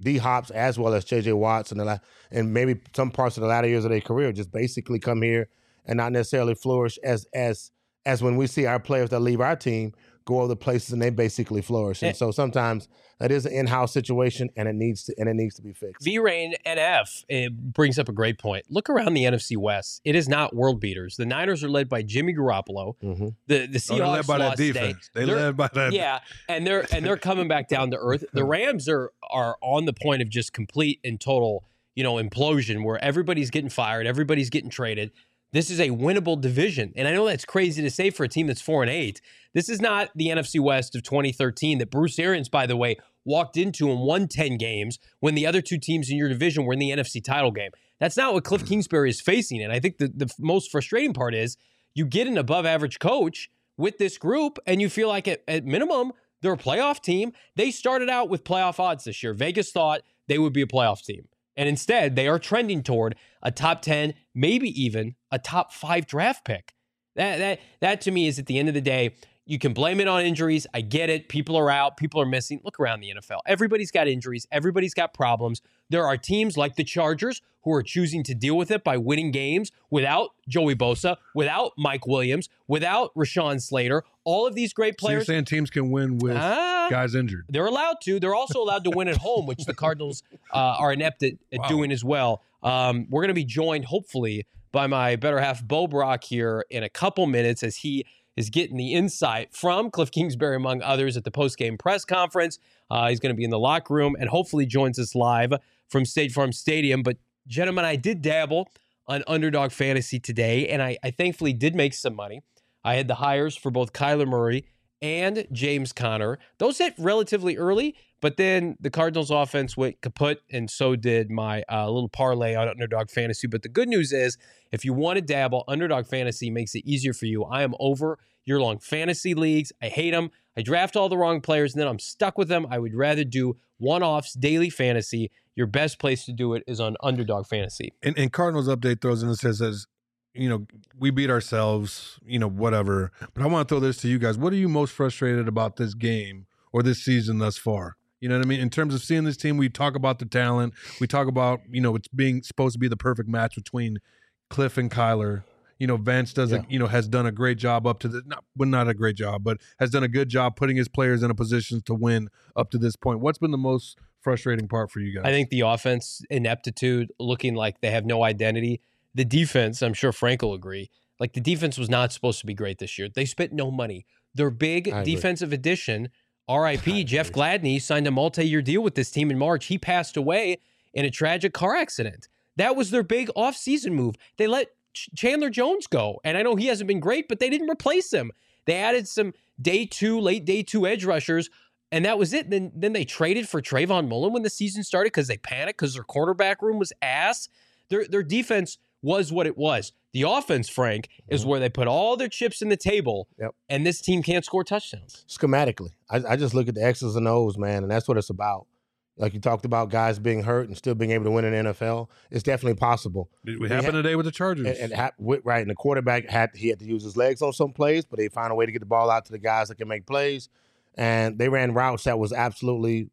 D Hops as well as J J Watts and the la- and maybe some parts of the latter years of their career just basically come here and not necessarily flourish as as as when we see our players that leave our team go other places and they basically flourish. And so sometimes that is an in-house situation and it needs to and it needs to be fixed. V-Rain N F it brings up a great point. Look around the N F C West. It is not world beaters. The Niners are led by Jimmy Garoppolo. Mm-hmm. The the Seahawks oh, led by lost that defense. Today. They led by that. Yeah, and they're and they're coming back down to earth. The Rams are are on the point of just complete and total, you know, implosion where everybody's getting fired, everybody's getting traded. This is a winnable division. And I know that's crazy to say for a team that's four and eight. This is not the N F C West of twenty thirteen that Bruce Arians, by the way, walked into and won ten games when the other two teams in your division were in the N F C title game. That's not what Cliff Kingsbury is facing. And I think the, the most frustrating part is you get an above average coach with this group and you feel like at, at minimum, they're a playoff team. They started out with playoff odds this year. Vegas thought they would be a playoff team. And instead, they are trending toward a top ten, maybe even a top five draft pick. That that that to me is at the end of the day, you can blame it on injuries. I get it. People are out. People are missing. Look around the N F L. Everybody's got injuries. Everybody's got problems. There are teams like the Chargers who are choosing to deal with it by winning games without Joey Bosa, without Mike Williams, without Rashawn Slater. All of these great So you're players. saying teams can win with Ah. guys injured? They're allowed to. They're also allowed to win at home, which the Cardinals uh, are inept at, at Wow. doing as well. Um, we're going to be joined, hopefully, by my better half, Bo Brock, here in a couple minutes as he is getting the insight from Cliff Kingsbury, among others, at the post-game press conference. Uh, he's going to be in the locker room and hopefully joins us live from State Farm Stadium. But, gentlemen, I did dabble on Underdog Fantasy today, and I, I thankfully did make some money. I had the hires for both Kyler Murray and James Conner. Those hit relatively early, but then the Cardinals offense went kaput, and so did my uh, little parlay on Underdog Fantasy. But the good news is, if you want to dabble, Underdog Fantasy makes it easier for you. I am over year-long fantasy leagues. I hate them. I draft all the wrong players, and then I'm stuck with them. I would rather do one-offs, daily fantasy. Your best place to do it is on Underdog Fantasy. And, and Cardinals update throws in and says, says, you know, we beat ourselves, you know, whatever. But I want to throw this to you guys. What are you most frustrated about this game or this season thus far? You know what I mean? In terms of seeing this team, we talk about the talent. We talk about, you know, it's being supposed to be the perfect match between Cliff and Kyler. You know, Vance does, Yeah. a, you know, has done a great job up to the, not, well, not a great job, but has done a good job putting his players in a position to win up to this point. What's been the most frustrating part for you guys? I think the offense ineptitude, looking like they have no identity. The defense, I'm sure Frank will agree, like the defense was not supposed to be great this year. They spent no money. Their big I agree. defensive addition, R I P, I Jeff agree. Gladney, signed a multi-year deal with this team in March. He passed away in a tragic car accident. That was their big offseason move. They let Ch- Chandler Jones go. And I know he hasn't been great, but they didn't replace him. They added some day two, late day two edge rushers, and that was it. Then then they traded for Trayvon Mullen when the season started because they panicked because their quarterback room was ass. Their their defense was what it was. The offense, Frank, is Mm-hmm. where they put all their chips in the table, Yep. and this team can't score touchdowns. Schematically, I, I just look at the X's and O's, man, and that's what it's about. Like you talked about guys being hurt and still being able to win in the N F L. It's definitely possible. It we happened ha- today with the Chargers. And, and ha- with, right, and the quarterback had he had to use his legs on some plays, but they found a way to get the ball out to the guys that can make plays, and they ran routes that was absolutely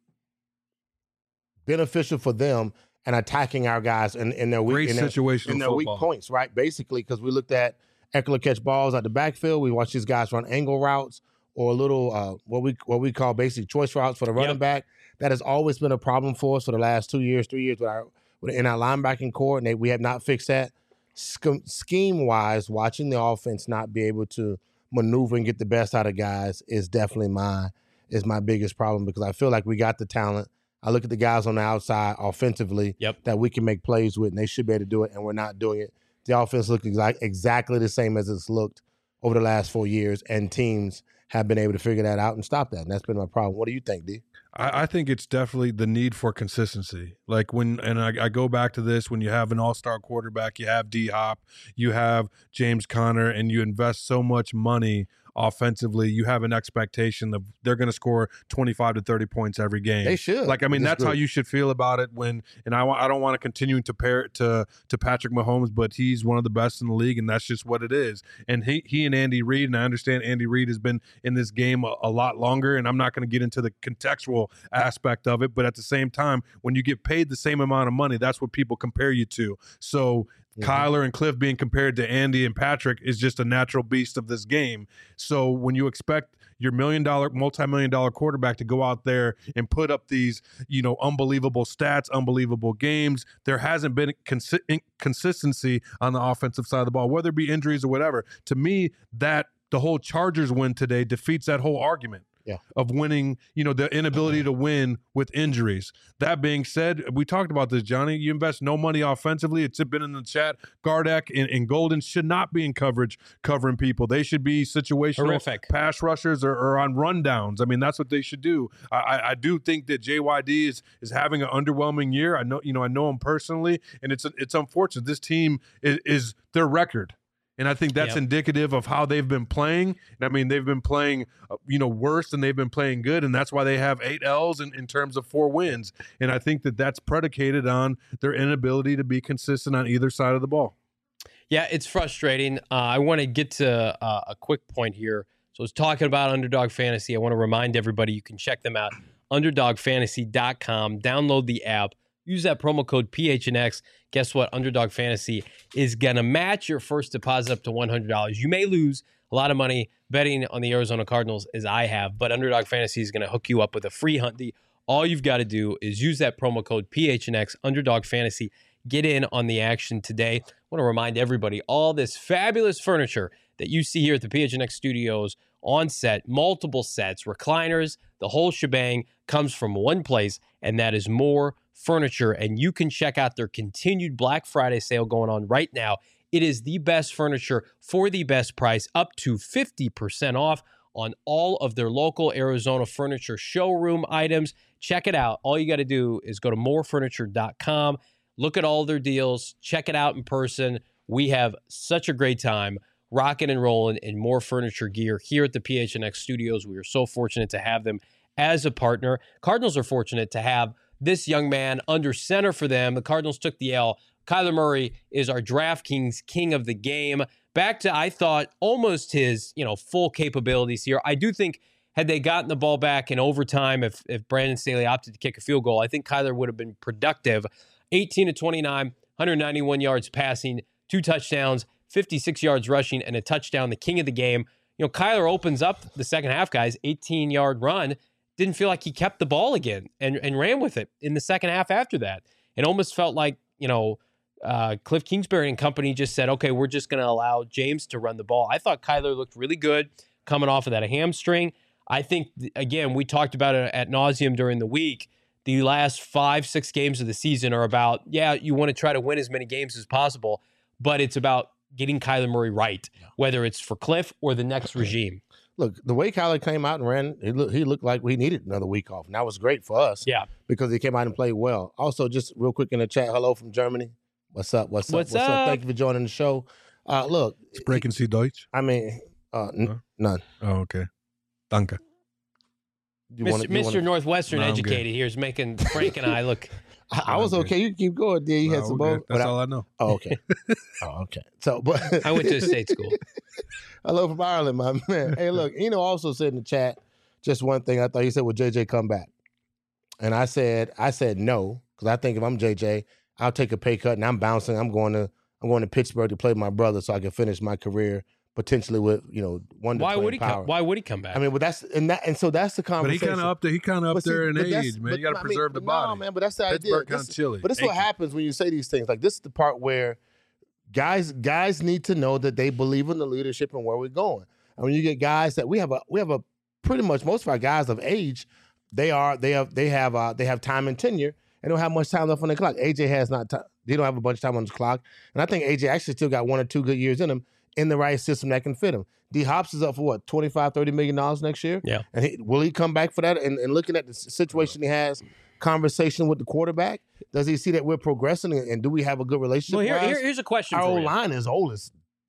beneficial for them and attacking our guys in, in their weak Great in their, situational in their weak football. points, right? Basically, because we looked at Eckler catch balls at the backfield, we watched these guys run angle routes or little uh, what we what we call basic choice routes for the running Yep. back. That has always been a problem for us for the last two years, three years with our in our linebacking core, and they, we have not fixed that. Scheme wise, watching the offense not be able to maneuver and get the best out of guys is definitely my is my biggest problem because I feel like we got the talent. I look at the guys on the outside offensively Yep. that we can make plays with, and they should be able to do it, and we're not doing it. The offense looks exact, exactly the same as it's looked over the last four years, and teams have been able to figure that out and stop that, and that's been my problem. What do you think, D? I, I think it's definitely the need for consistency. Like when, and I, I go back to this, when you have an all-star quarterback, you have D Hop, you have James Conner, and you invest so much money offensively, you have an expectation of they're going to score twenty-five to thirty points every game. They should. Like, I mean, that's group. how you should feel about it when, and I, I don't want to continue to pair it to, to Patrick Mahomes, but he's one of the best in the league, and that's just what it is. And he, he and Andy Reid, and I understand Andy Reid has been in this game a, a lot longer, and I'm not going to get into the contextual aspect of it, but at the same time, when you get paid the same amount of money, that's what people compare you to. So mm-hmm. Kyler and Cliff being compared to Andy and Patrick is just a natural beast of this game. So when you expect your million dollar, multi-million dollar quarterback to go out there and put up these, you know, unbelievable stats, unbelievable games, there hasn't been consi- consistency on the offensive side of the ball, whether it be injuries or whatever. To me, that the whole Chargers win today defeats that whole argument. Yeah. Of winning, you know, the inability to win with injuries. That being said, we talked about this, Johnny. You invest no money offensively. It's been in the chat. Gardeck and, and Golden should not be in coverage covering people. They should be situational Horrific. pass rushers or, or on rundowns. I mean, that's what they should do. I, I, I do think that J Y D is is having an underwhelming year. I know, you know, I know him personally, and it's it's unfortunate. This team is, is their record. And I think that's yep. indicative of how they've been playing. And I mean, they've been playing, uh, you know, worse than they've been playing good. And that's why they have eight L's in, in terms of four wins. And I think that that's predicated on their inability to be consistent on either side of the ball. Yeah, it's frustrating. Uh, I want to get to uh, a quick point here. So I was talking about Underdog Fantasy. I want to remind everybody you can check them out, underdog fantasy dot com. Download the app. Use that promo code P H N X. Guess what? Underdog Fantasy is going to match your first deposit up to one hundred dollars. You may lose a lot of money betting on the Arizona Cardinals, as I have, but Underdog Fantasy is going to hook you up with a free Hunty. All you've got to do is use that promo code P H N X, Underdog Fantasy. Get in on the action today. I want to remind everybody, all this fabulous furniture that you see here at the P H N X studios on set, multiple sets, recliners, the whole shebang comes from one place, and that is More Furniture. And you can check out their continued Black Friday sale going on right now. It is the best furniture for the best price, up to fifty percent off on all of their local Arizona furniture showroom items. Check it out. All you got to do is go to more furniture dot com, look at all their deals, check it out in person. We have such a great time rocking and rolling in More Furniture gear here at the P H N X studios. We are so fortunate to have them as a partner. Cardinals are fortunate to have this young man under center for them. The Cardinals took the L. Kyler Murray is our DraftKings king of the game. Back to, I thought, almost his, you know, full capabilities here. I do think had they gotten the ball back in overtime, if if Brandon Staley opted to kick a field goal, I think Kyler would have been productive. eighteen to twenty-nine, one hundred ninety-one yards passing, two touchdowns, fifty-six yards rushing, and a touchdown, the king of the game. You know, Kyler opens up the second half, guys, eighteen-yard run. Didn't feel like he kept the ball again and, and ran with it in the second half after that. It almost felt like, you know, uh, Cliff Kingsbury and company just said, okay, we're just going to allow James to run the ball. I thought Kyler looked really good coming off of that hamstring. I think, again, we talked about it at nauseum during the week. The last five, six games of the season are about, yeah, you want to try to win as many games as possible, but it's about getting Kyler Murray right, whether it's for Cliff or the next regime. Look, the way Kyler came out and ran, he, look, he looked like we needed another week off. And that was great for us. Yeah. Because he came out and played well. Also, just real quick in the chat, hello from Germany. What's up? What's up? What's, What's up? up? Thank you for joining the show. Uh, look. Sprechen Sie Deutsch? I mean, uh, n- huh? none. Oh, okay. Danke. You Mister wanna, you Mister wanna... Northwestern no, educated here is making Frank and I look. I, I was okay. You can keep going, D. You no, had some okay. both. That's I, all I know. Oh, okay. oh, okay. So, but I went to a state school. Hello from Ireland, my man. Hey, look, Eno also said in the chat just one thing. I thought he said, "Will J J come back?" And I said, I said no, because I think if I'm J J, I'll take a pay cut and I'm bouncing. I'm going to I'm going to Pittsburgh to play with my brother so I can finish my career potentially with, you know, one. Why would he power. come? Why would he come back? I mean, but that's and that and so that's the But he conversation. kind of up there. He kind of up But see, there in but that's- age, man. but You got to I mean, preserve the no, body. man. But that's the idea. Pittsburgh kind This- of chilly. But this is what Achy. happens when you say these things. Like this is the part where guys guys need to know that they believe in the leadership and where we're going. And when you get guys that we have a we have a pretty much most of our guys of age, they are they have they have uh, they have time and tenure and don't have much time left on the clock. A J has not. T- they don't have a bunch of time on the clock, and I think A J actually still got one or two good years in him in the right system that can fit him. D Hops is up for what, twenty-five, thirty million dollars next year? Yeah. And he, will he come back for that? And, and looking at the situation he has, conversation with the quarterback, does he see that we're progressing and, and do we have a good relationship? well, here, Whereas here, here's a question our for old you. line is old as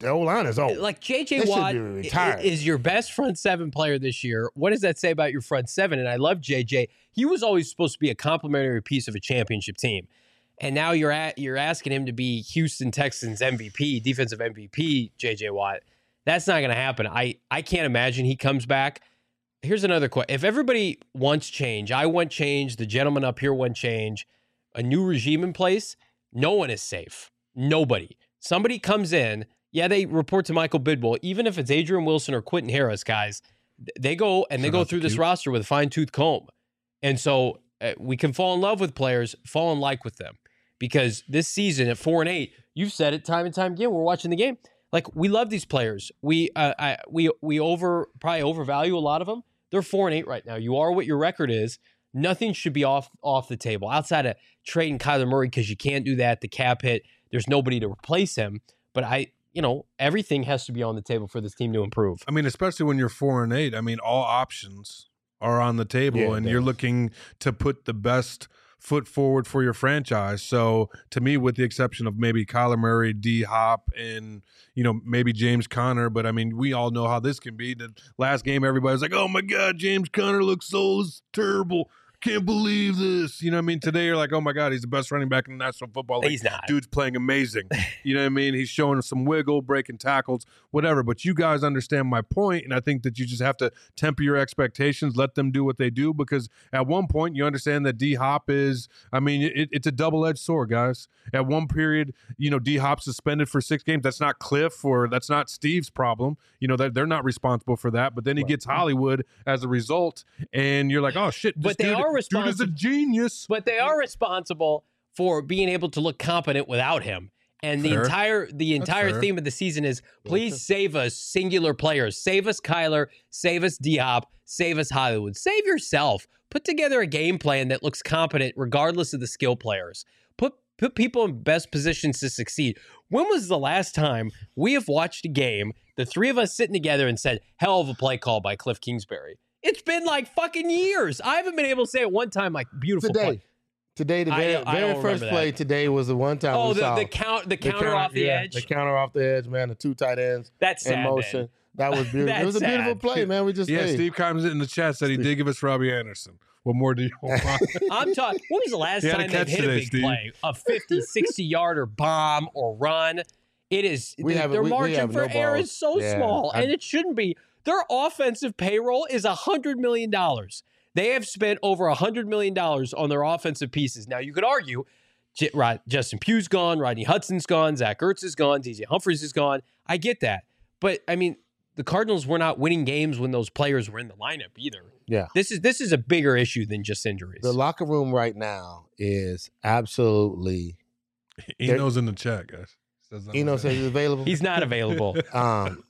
the O-line is old. Like J J They should Watt be retired. i- is your best front seven player this year. What does that say about your front seven? And I love J J. He was always supposed to be a complementary piece of a championship team. And now you're at you're asking him to be Houston Texans M V P, defensive M V P, J J Watt. That's not going to happen. I, I can't imagine he comes back. Here's another question. If everybody wants change, I want change, the gentleman up here want change, a new regime in place, no one is safe. Nobody. Somebody comes in, yeah, they report to Michael Bidwell, even if it's Adrian Wilson or Quentin Harris, guys, they go and they Shout go out to through this Q. roster with a fine-tooth comb. And so uh, we can fall in love with players, fall in like with them. Because this season at four and eight, you've said it time and time again, we're watching the game. Like, we love these players. We uh, I, we we over probably overvalue a lot of them. They're four and eight right now. You are what your record is. Nothing should be off off the table outside of trading Kyler Murray because you can't do that. The cap hit. There's nobody to replace him. But I, you know, everything has to be on the table for this team to improve. I mean, especially when you're four and eight. I mean, all options are on the table, Yeah, and it you're does. looking to put the best foot forward for your franchise. So, to me, with the exception of maybe Kyler Murray, D Hop, and you know maybe James Conner, but I mean, we all know how this can be. The last game, everybody's like, "Oh my God, James Conner looks so terrible. Can't believe this." You know what I mean? Today, you're like, "Oh my God, he's the best running back in the National Football League." He's not. Dude's playing amazing. You know what I mean? He's showing some wiggle, breaking tackles, whatever. But you guys understand my point, and I think that you just have to temper your expectations, let them do what they do, because at one point you understand that D Hop is, I mean, it, it's a double-edged sword, guys. At one period, you know, D Hop suspended for six games. That's not Cliff or that's not Steve's problem. You know, they're, they're not responsible for that. But then he gets Hollywood as a result, and you're like, oh, shit. But this they dude, are dude is a responsible. genius. But they are responsible for being able to look competent without him. And the Fair. entire the entire fair. theme of the season is please save us singular players. Save us Kyler, save us D-Hop, save us Hollywood. Save yourself. Put together a game plan that looks competent regardless of the skill players. Put put people in best positions to succeed. When was the last time we have watched a game, the three of us sitting together and said, hell of a play call by Cliff Kingsbury? It's been like fucking years. I haven't been able to say it one time like beautiful Today. play. Today, the I very, don't- I very don't first remember play that. today was the one time Oh, we the, saw the count the the counter off the yeah, edge. The counter off the edge, man. The two tight ends That's in sad, motion. man. That was beautiful. It was a That's beautiful sad. play, man. We just Yeah, hey. Steve Combs in the chat said he did give us Robbie Anderson. What more do you want? I'm talking. When was the last You had a time they've catch hit today, a big Steve. play, a fifty, sixty yarder bomb or run? It is We the- have- their we- we margin have for no error balls. is so Yeah, small, I- and it shouldn't be. Their offensive payroll is a hundred million dollars. They have spent over a hundred million dollars on their offensive pieces. Now you could argue, J- right, Justin Pugh's gone, Rodney Hudson's gone, Zach Ertz is gone, D J Humphries is gone. I get that, but I mean, the Cardinals were not winning games when those players were in the lineup either. Yeah. This is this is a bigger issue than just injuries. The locker room right now is absolutely. Eno's in the chat, guys. Says I'm Eno in says there. he's available. He's not available. Um,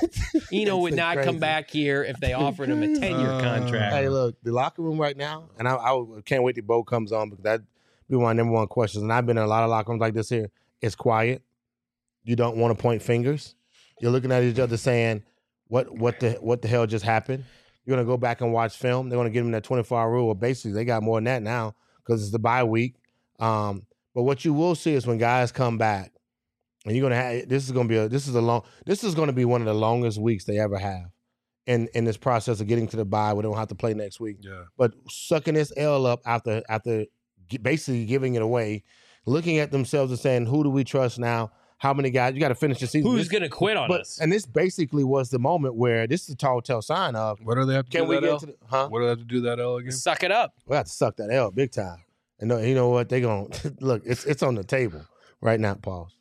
Eno would it's not crazy. come back here if they offered him a ten-year Uh, contract. Hey, look, the locker room right now, and I, I can't wait till Bo comes on because that be one of the number one questions. And I've been in a lot of locker rooms like this here. It's quiet. You don't want to point fingers. You're looking at each other saying, "What, what the, what the hell just happened?" You're gonna go back and watch film. They're gonna give them that twenty-four hour rule. Well, basically, they got more than that now because it's the bye week. Um, but what you will see is when guys come back, and you're gonna have this is gonna be a this is a long this is gonna be one of the longest weeks they ever have in in this process of getting to the bye. We don't have to play next week. Yeah. But sucking this L up after after gi- basically giving it away, looking at themselves and saying, "Who do we trust now? How many guys? You got to finish the season." Who's This- going to quit on but, us? And this basically was the moment where this is a tall tell sign of What do they have to can do we that get L? to the huh? What do they have to do that L again? Suck it up. We have to suck that L big time. And no, you know what? They gonna look. It's it's on the table right now. Pause.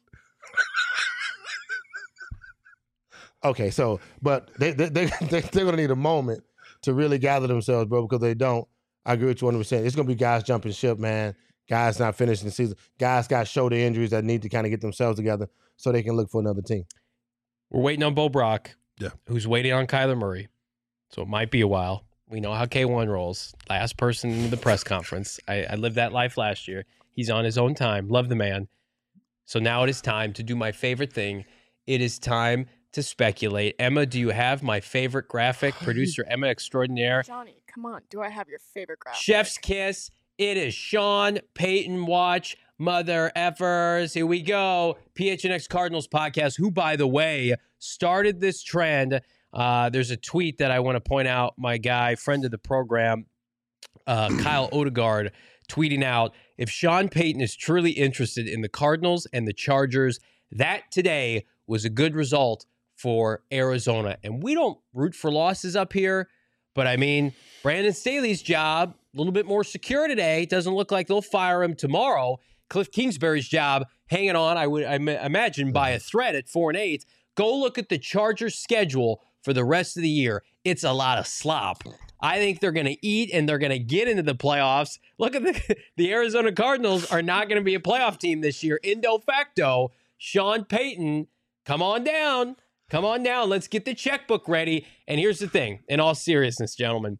Okay, so but they they they they- they're gonna need a moment to really gather themselves, bro. Because they don't. I agree with you one hundred percent. It's gonna be guys jumping ship, man. Guys not finishing the season. Guys got shoulder injuries that need to kind of get themselves together so they can look for another team. We're waiting on Bo Brock, Yeah. who's waiting on Kyler Murray. So it might be a while. We know how K one rolls. Last person in the press conference. I, I lived that life last year. He's on his own time. Love the man. So now it is time to do my favorite thing. It is time to speculate. Emma, do you have my favorite graphic? Producer Emma Extraordinaire. Johnny, come on. Do I have your favorite graphic? Chef's kiss. It is Sean Payton Watch, Mother effers. Here we go. P H N X Cardinals podcast, who, by the way, started this trend. Uh, there's a tweet that I want to point out. My guy, friend of the program, uh, Kyle Odegaard, tweeting out, if Sean Payton is truly interested in the Cardinals and the Chargers, that today was a good result for Arizona. And we don't root for losses up here, but I mean, Brandon Staley's job, a little bit more secure today. Doesn't look like they'll fire him tomorrow. Cliff Kingsbury's job hanging on, I would I imagine, by a thread at four and eight. Go look at the Chargers' schedule for the rest of the year. It's a lot of slop. I think they're going to eat and they're going to get into the playoffs. Look at the the Arizona Cardinals are not going to be a playoff team this year. Indo facto, Sean Payton, come on down. Come on down. Let's get the checkbook ready. And here's the thing. In all seriousness, gentlemen,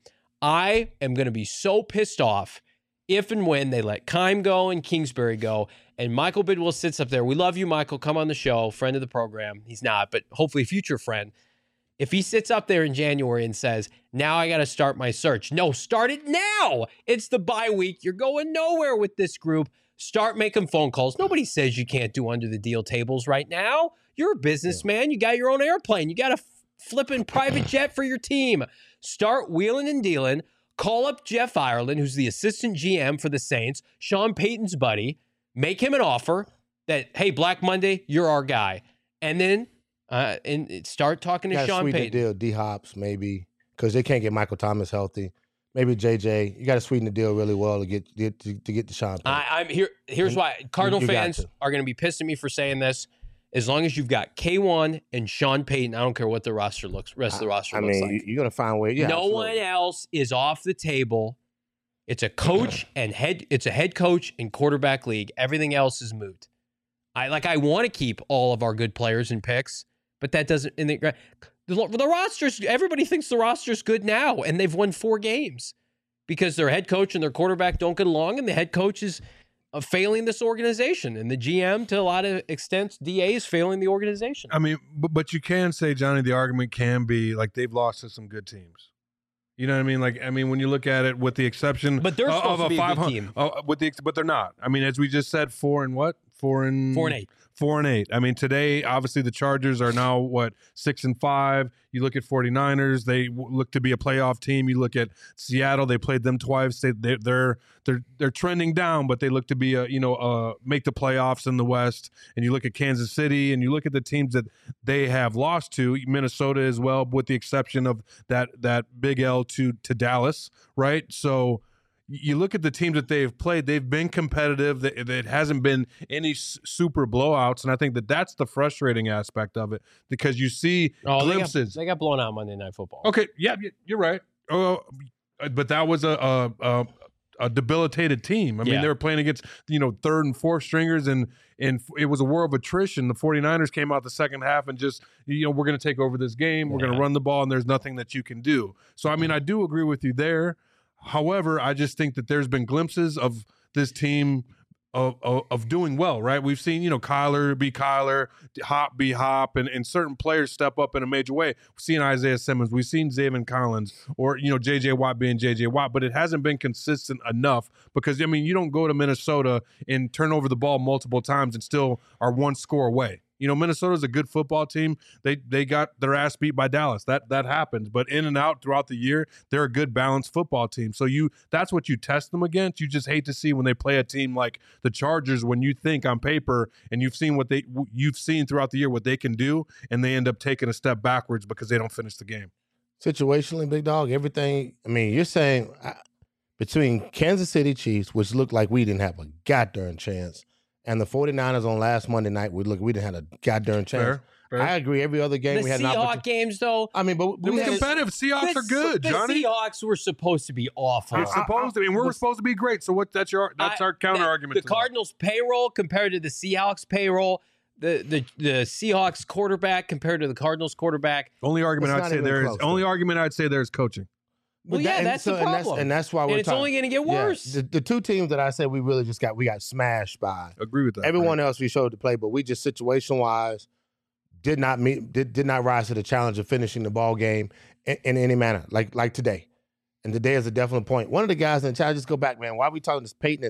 I am going to be so pissed off if and when they let Keim go and Kingsbury go, and Michael Bidwell sits up there. We love you, Michael. Come on the show, friend of the program. He's not, but hopefully future friend. If he sits up there in January and says, now I got to start my search. No, start it now. It's the bye week. You're going nowhere with this group. Start making phone calls. Nobody says you can't do under the deal tables right now. You're a businessman. You got your own airplane. You got a f- flipping private jet for your team. Start wheeling and dealing. Call up Jeff Ireland, who's the assistant G M for the Saints, Sean Payton's buddy. Make him an offer that, hey, Black Monday, you're our guy. And then uh, and start talking to Sean sweeten Payton. The deal, D-Hops, maybe, because they can't get Michael Thomas healthy. Maybe J J. You got to sweeten the deal really well to get, get to, to get to Sean Payton. I, I'm here. Here's and why. Cardinal you, you fans are going to be pissed at me for saying this. As long as you've got K one and Sean Payton, I don't care what the roster looks. Rest of the roster I, I looks mean, like. You're going to find ways. Yeah, no absolutely. one else is off the table. It's a coach and head. It's a head coach and quarterback league. Everything else is moot. I like. I want to keep all of our good players and picks, but that doesn't. In the, the the rosters. Everybody thinks the roster's good now, and they've won four games because their head coach and their quarterback don't get along, and the head coach is uh, failing this organization, and the G M, to a lot of extents, D A is failing the organization. I mean, but, but you can say, Johnny, the argument can be like they've lost to some good teams. You know what I mean? Like, I mean, when you look at it, with the exception, but they're supposed of a to be a five good hundred, team. uh, with the, but they're not. I mean, as we just said, four and what? Four and four and eight. Four and eight. I mean, today, obviously, the Chargers are now, what, six and five. You look at 49ers, they look to be a playoff team. You look at Seattle, they played them twice. They, they, they're they're they're trending down, but they look to be, a, you know, uh, make the playoffs in the West. And you look at Kansas City, and you look at the teams that they have lost to, Minnesota as well, with the exception of that that big L to to Dallas, right? So you look at the teams that they've played, they've been competitive. It hasn't been any super blowouts, and I think that that's the frustrating aspect of it because you see oh, glimpses. They got, they got blown out Monday Night Football. Okay, yeah, you're right. Oh, but that was a a, a, a debilitated team. I mean, yeah. they were playing against, you know, third and fourth stringers, and and it was a war of attrition. The 49ers came out the second half and just, you know, we're going to take over this game. We're yeah. going to run the ball, and there's nothing that you can do. So, I mean, I do agree with you there. However, I just think that there's been glimpses of this team of, of, of doing well, right? We've seen, you know, Kyler be Kyler, Hop be Hop, and, and certain players step up in a major way. We've seen Isaiah Simmons. We've seen Zaven Collins or, you know, J J. Watt being J J. Watt, but it hasn't been consistent enough because, I mean, you don't go to Minnesota and turn over the ball multiple times and still are one score away. You know, Minnesota's a good football team. They they got their ass beat by Dallas. That that happens. But in and out throughout the year, they're a good balanced football team. So you that's what you test them against. You just hate to see when they play a team like the Chargers when you think on paper and you've seen what they you've seen throughout the year what they can do, and they end up taking a step backwards because they don't finish the game. Situationally, big dog, everything. I mean, you're saying uh, between Kansas City Chiefs, which looked like we didn't have a goddamn chance, and the 49ers on last Monday night, we look, we didn't have a goddamn chance. Fair, fair. I agree. Every other game the we had Seahawks an opportunity. games, though. I mean, but we we were had, competitive. Seahawks the, are good, the Johnny. The Seahawks were supposed to be awful. They're supposed to, and we're I, supposed to be great. So what? That's your that's I, our counter the, argument. The Cardinals' payroll compared to the Seahawks' payroll. The, the the Seahawks quarterback compared to the Cardinals quarterback. Only argument It's I'd say there is only argument I'd say there is coaching. Well, But yeah, that- that's so- the and problem. that's, and that's why we're and it's talking. only going to get Yeah, worse. the, the two teams that I said we really just got we got smashed by. Agree with that. Everyone else we showed to play, but we just situation wise did not meet did, did not rise to the challenge of finishing the ball game in, in any manner like like today. And today is a definite point. One of the guys in the chat, just go back, man. Why are we talking to Peyton and,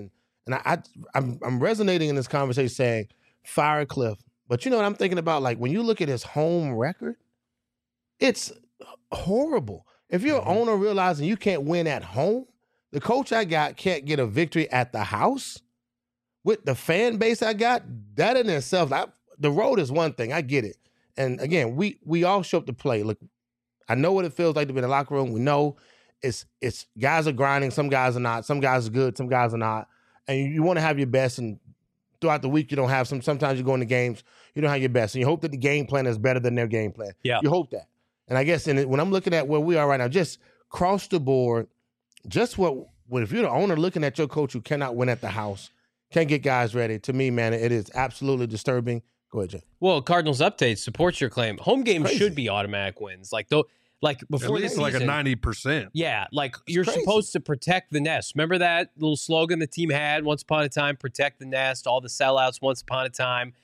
And I, I I'm I'm resonating in this conversation saying fire Cliff. But you know what I'm thinking about? Like when you look at his home record, it's horrible. If you're mm-hmm. an owner realizing you can't win at home, the coach I got can't get a victory at the house with the fan base I got, that in itself, I, the road is one thing. I get it. And again, we we all show up to play. Look, I know what it feels like to be in the locker room. We know it's it's guys are grinding. Some guys are not. Some guys are good. Some guys are not. And you, you want to have your best. And throughout the week, you don't have some. Sometimes you go into games, you don't have your best. And you hope that the game plan is better than their game plan. Yeah. You hope that. And I guess in it, when I'm looking at where we are right now, just cross the board, just what, what if you're the owner looking at your coach who cannot win at the house, can't get guys ready, to me, man, it is absolutely disturbing. Go ahead, Jay. Well, Cardinals Update supports your claim. Home games Crazy. should be automatic wins. Like though, like before At least the season, like a ninety percent. Yeah, like It's you're crazy. supposed to protect the nest. Remember that little slogan the team had once upon a time, protect the nest, all the sellouts once upon a time.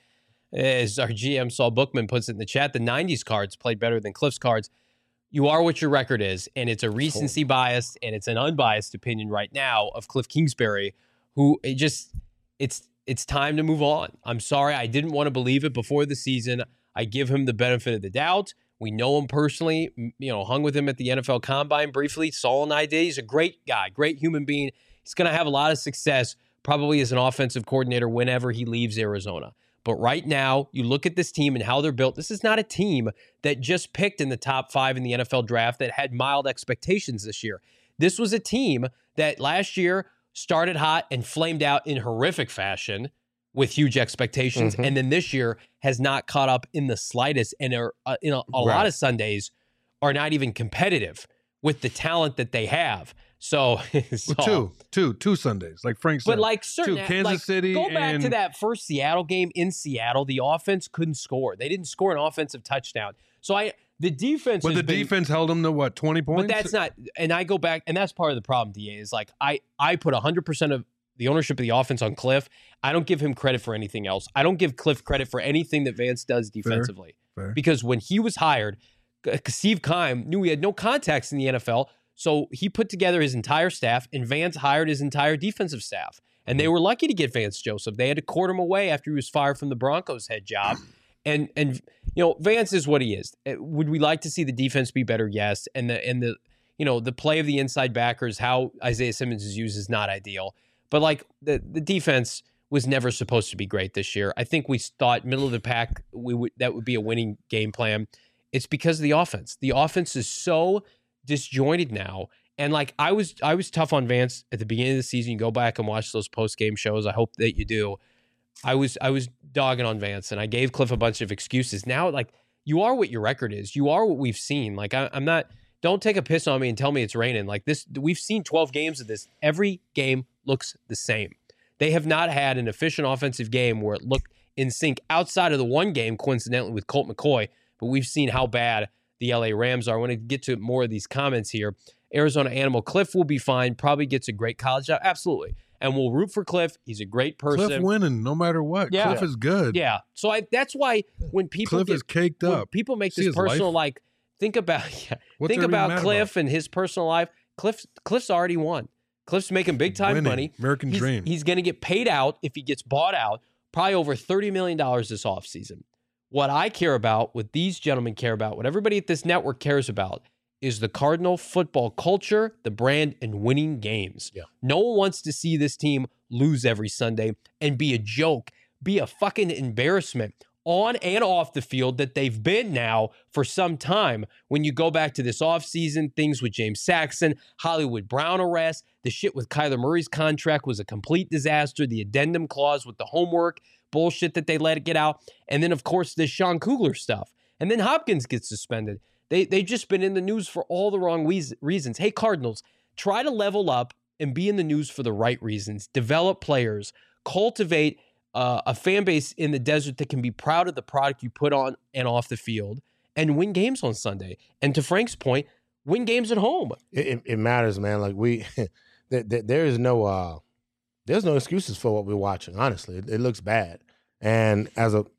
As our G M Saul Bookman puts it in the chat, the nineties cards played better than Cliff's cards. You are what your record is, and it's a recency bias, and it's an unbiased opinion right now of Cliff Kingsbury, who it just it's it's time to move on. I'm sorry, I didn't want to believe it before the season. I give him the benefit of the doubt. We know him personally, you know, hung with him at the N F L Combine briefly. Saul and I did. He's a great guy, great human being. He's going to have a lot of success, probably as an offensive coordinator whenever he leaves Arizona. But right now, you look at this team and how they're built. This is not a team that just picked in the top five in the N F L draft that had mild expectations this year. This was a team that last year started hot and flamed out in horrific fashion with huge expectations. Mm-hmm. And then this year has not caught up in the slightest and are, uh, in a, a right. lot of Sundays are not even competitive with the talent that they have. So, so well, two, two, two Sundays, like Frank said. But like certain, two, Kansas like, City. Go back and... to that first Seattle game in Seattle. The offense couldn't score. They didn't score an offensive touchdown. So I, the defense. But the been, defense held them to what, twenty points? But that's not. And I go back, and that's part of the problem. D A is like I, I put a hundred percent of the ownership of the offense on Cliff. I don't give him credit for anything else. I don't give Cliff credit for anything that Vance does defensively. Fair, fair. Because when he was hired, Steve Keim knew he had no contacts in the N F L. So he put together his entire staff, and Vance hired his entire defensive staff. And they were lucky to get Vance Joseph. They had to court him away after he was fired from the Broncos head job. And and you know, Vance is what he is. Would we like to see the defense be better? Yes. And the and the you know the play of the inside backers, how Isaiah Simmons is used, is not ideal. But like the the defense was never supposed to be great this year. I think we thought middle of the pack we would that would be a winning game plan. It's because of the offense. The offense is so disjointed now, and like I was I was tough on Vance at the beginning of the season. You go back and watch those post-game shows. I hope that you do. I was I was dogging on Vance, and I gave Cliff a bunch of excuses. Now, like, you are what your record is. You are what we've seen. Like, I, I'm not, don't take a piss on me and tell me it's raining. Like this, we've seen twelve games of this. Every game looks the same. They have not had an efficient offensive game where it looked in sync outside of the one game, coincidentally, with Colt McCoy. But we've seen how bad the L A Rams are. I want to get to more of these comments here. Arizona Animal, Cliff will be fine. Probably gets a great college job. Absolutely. And we'll root for Cliff. He's a great person. Cliff winning no matter what. Yeah. Cliff is good. Yeah. So I, that's why when people Cliff get, is caked when up. people make See this his personal, life? like, think about yeah, What's think there to be about mad Cliff about? and his personal life. Cliff, Cliff's already won. Cliff's making big time Winning. money. American he's, dream. He's going to get paid out if he gets bought out, probably over thirty million dollars this offseason. What I care about, what these gentlemen care about, what everybody at this network cares about is the Cardinal football culture, the brand, and winning games. Yeah. No one wants to see this team lose every Sunday and be a joke, be a fucking embarrassment on and off the field that they've been now for some time. When you go back to this offseason, things with James Saxon, Hollywood Brown arrest, the shit with Kyler Murray's contract was a complete disaster, the addendum clause with the homework bullshit that they let it get out, and then, of course, this Sean Kugler stuff. And then Hopkins gets suspended. They, they've just been in the news for all the wrong we- reasons. Hey, Cardinals, try to level up and be in the news for the right reasons. Develop players. Cultivate uh, a fan base in the desert that can be proud of the product you put on and off the field and win games on Sunday. And to Frank's point, win games at home. It, it, it matters, man. Like we, there, there is no, uh, there's no excuses for what we're watching. Honestly, it, it looks bad. And as a,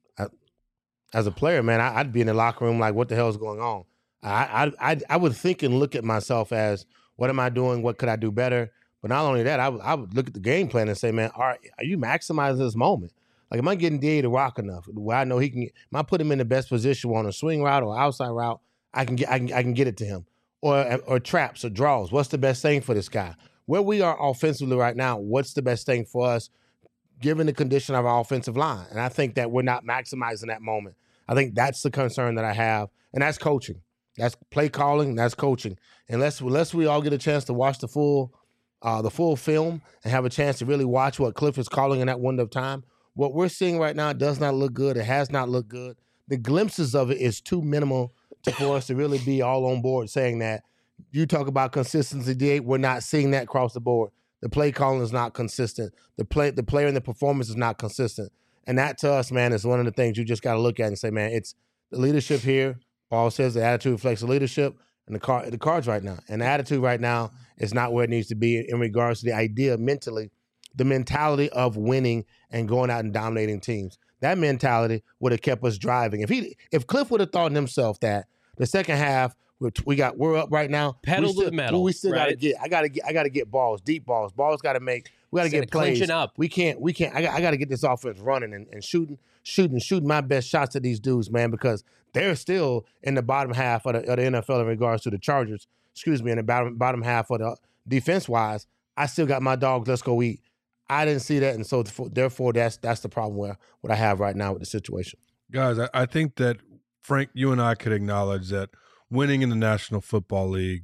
as a player, man, I, I'd be in the locker room like, what the hell is going on? I, I, I, I would think and look at myself as, what am I doing? What could I do better? But not only that, I would, I would look at the game plan and say, man, are, are you maximizing this moment? Like, am I getting D A to rock enough? Where I know he can, am I put him in the best position on a swing route or outside route? I can get, I can, I can get it to him, or or traps or draws. What's the best thing for this guy? Where we are offensively right now, what's the best thing for us, given the condition of our offensive line? And I think that we're not maximizing that moment. I think that's the concern that I have, and that's coaching. That's play calling. That's coaching. Unless unless we all get a chance to watch the full. Uh, the full film and have a chance to really watch what Cliff is calling in that window of time. What we're seeing right now does not look good. It has not looked good. The glimpses of it is too minimal to, for us to really be all on board saying that. You talk about consistency, D A, we're not seeing that across the board. The play calling is not consistent. The play, the player and the performance is not consistent. And that to us, man, is one of the things you just got to look at and say, man, it's the leadership here. Paul says the attitude reflects the leadership. And the card, the cards right now, and the attitude right now is not where it needs to be in regards to the idea mentally, the mentality of winning and going out and dominating teams. That mentality would have kept us driving. If he, if Cliff would have thought in himself that the second half we got, we're up right now. Pedal to the metal. We still right? got to get. I got to get. I got to get balls, deep balls. Balls got to make. We got to get plays. Clinching up. We can't. We can't. I got, I got to get this offense running and, and shooting, shooting, shooting my best shots at these dudes, man, because they're still in the bottom half of the, of the N F L in regards to the Chargers. Excuse me, in the bottom bottom half of the defense wise. I still got my dogs. Let's go eat. I didn't see that, and so therefore that's that's the problem where what I have right now with the situation. Guys, I, I think that Frank, you and I could acknowledge that winning in the National Football League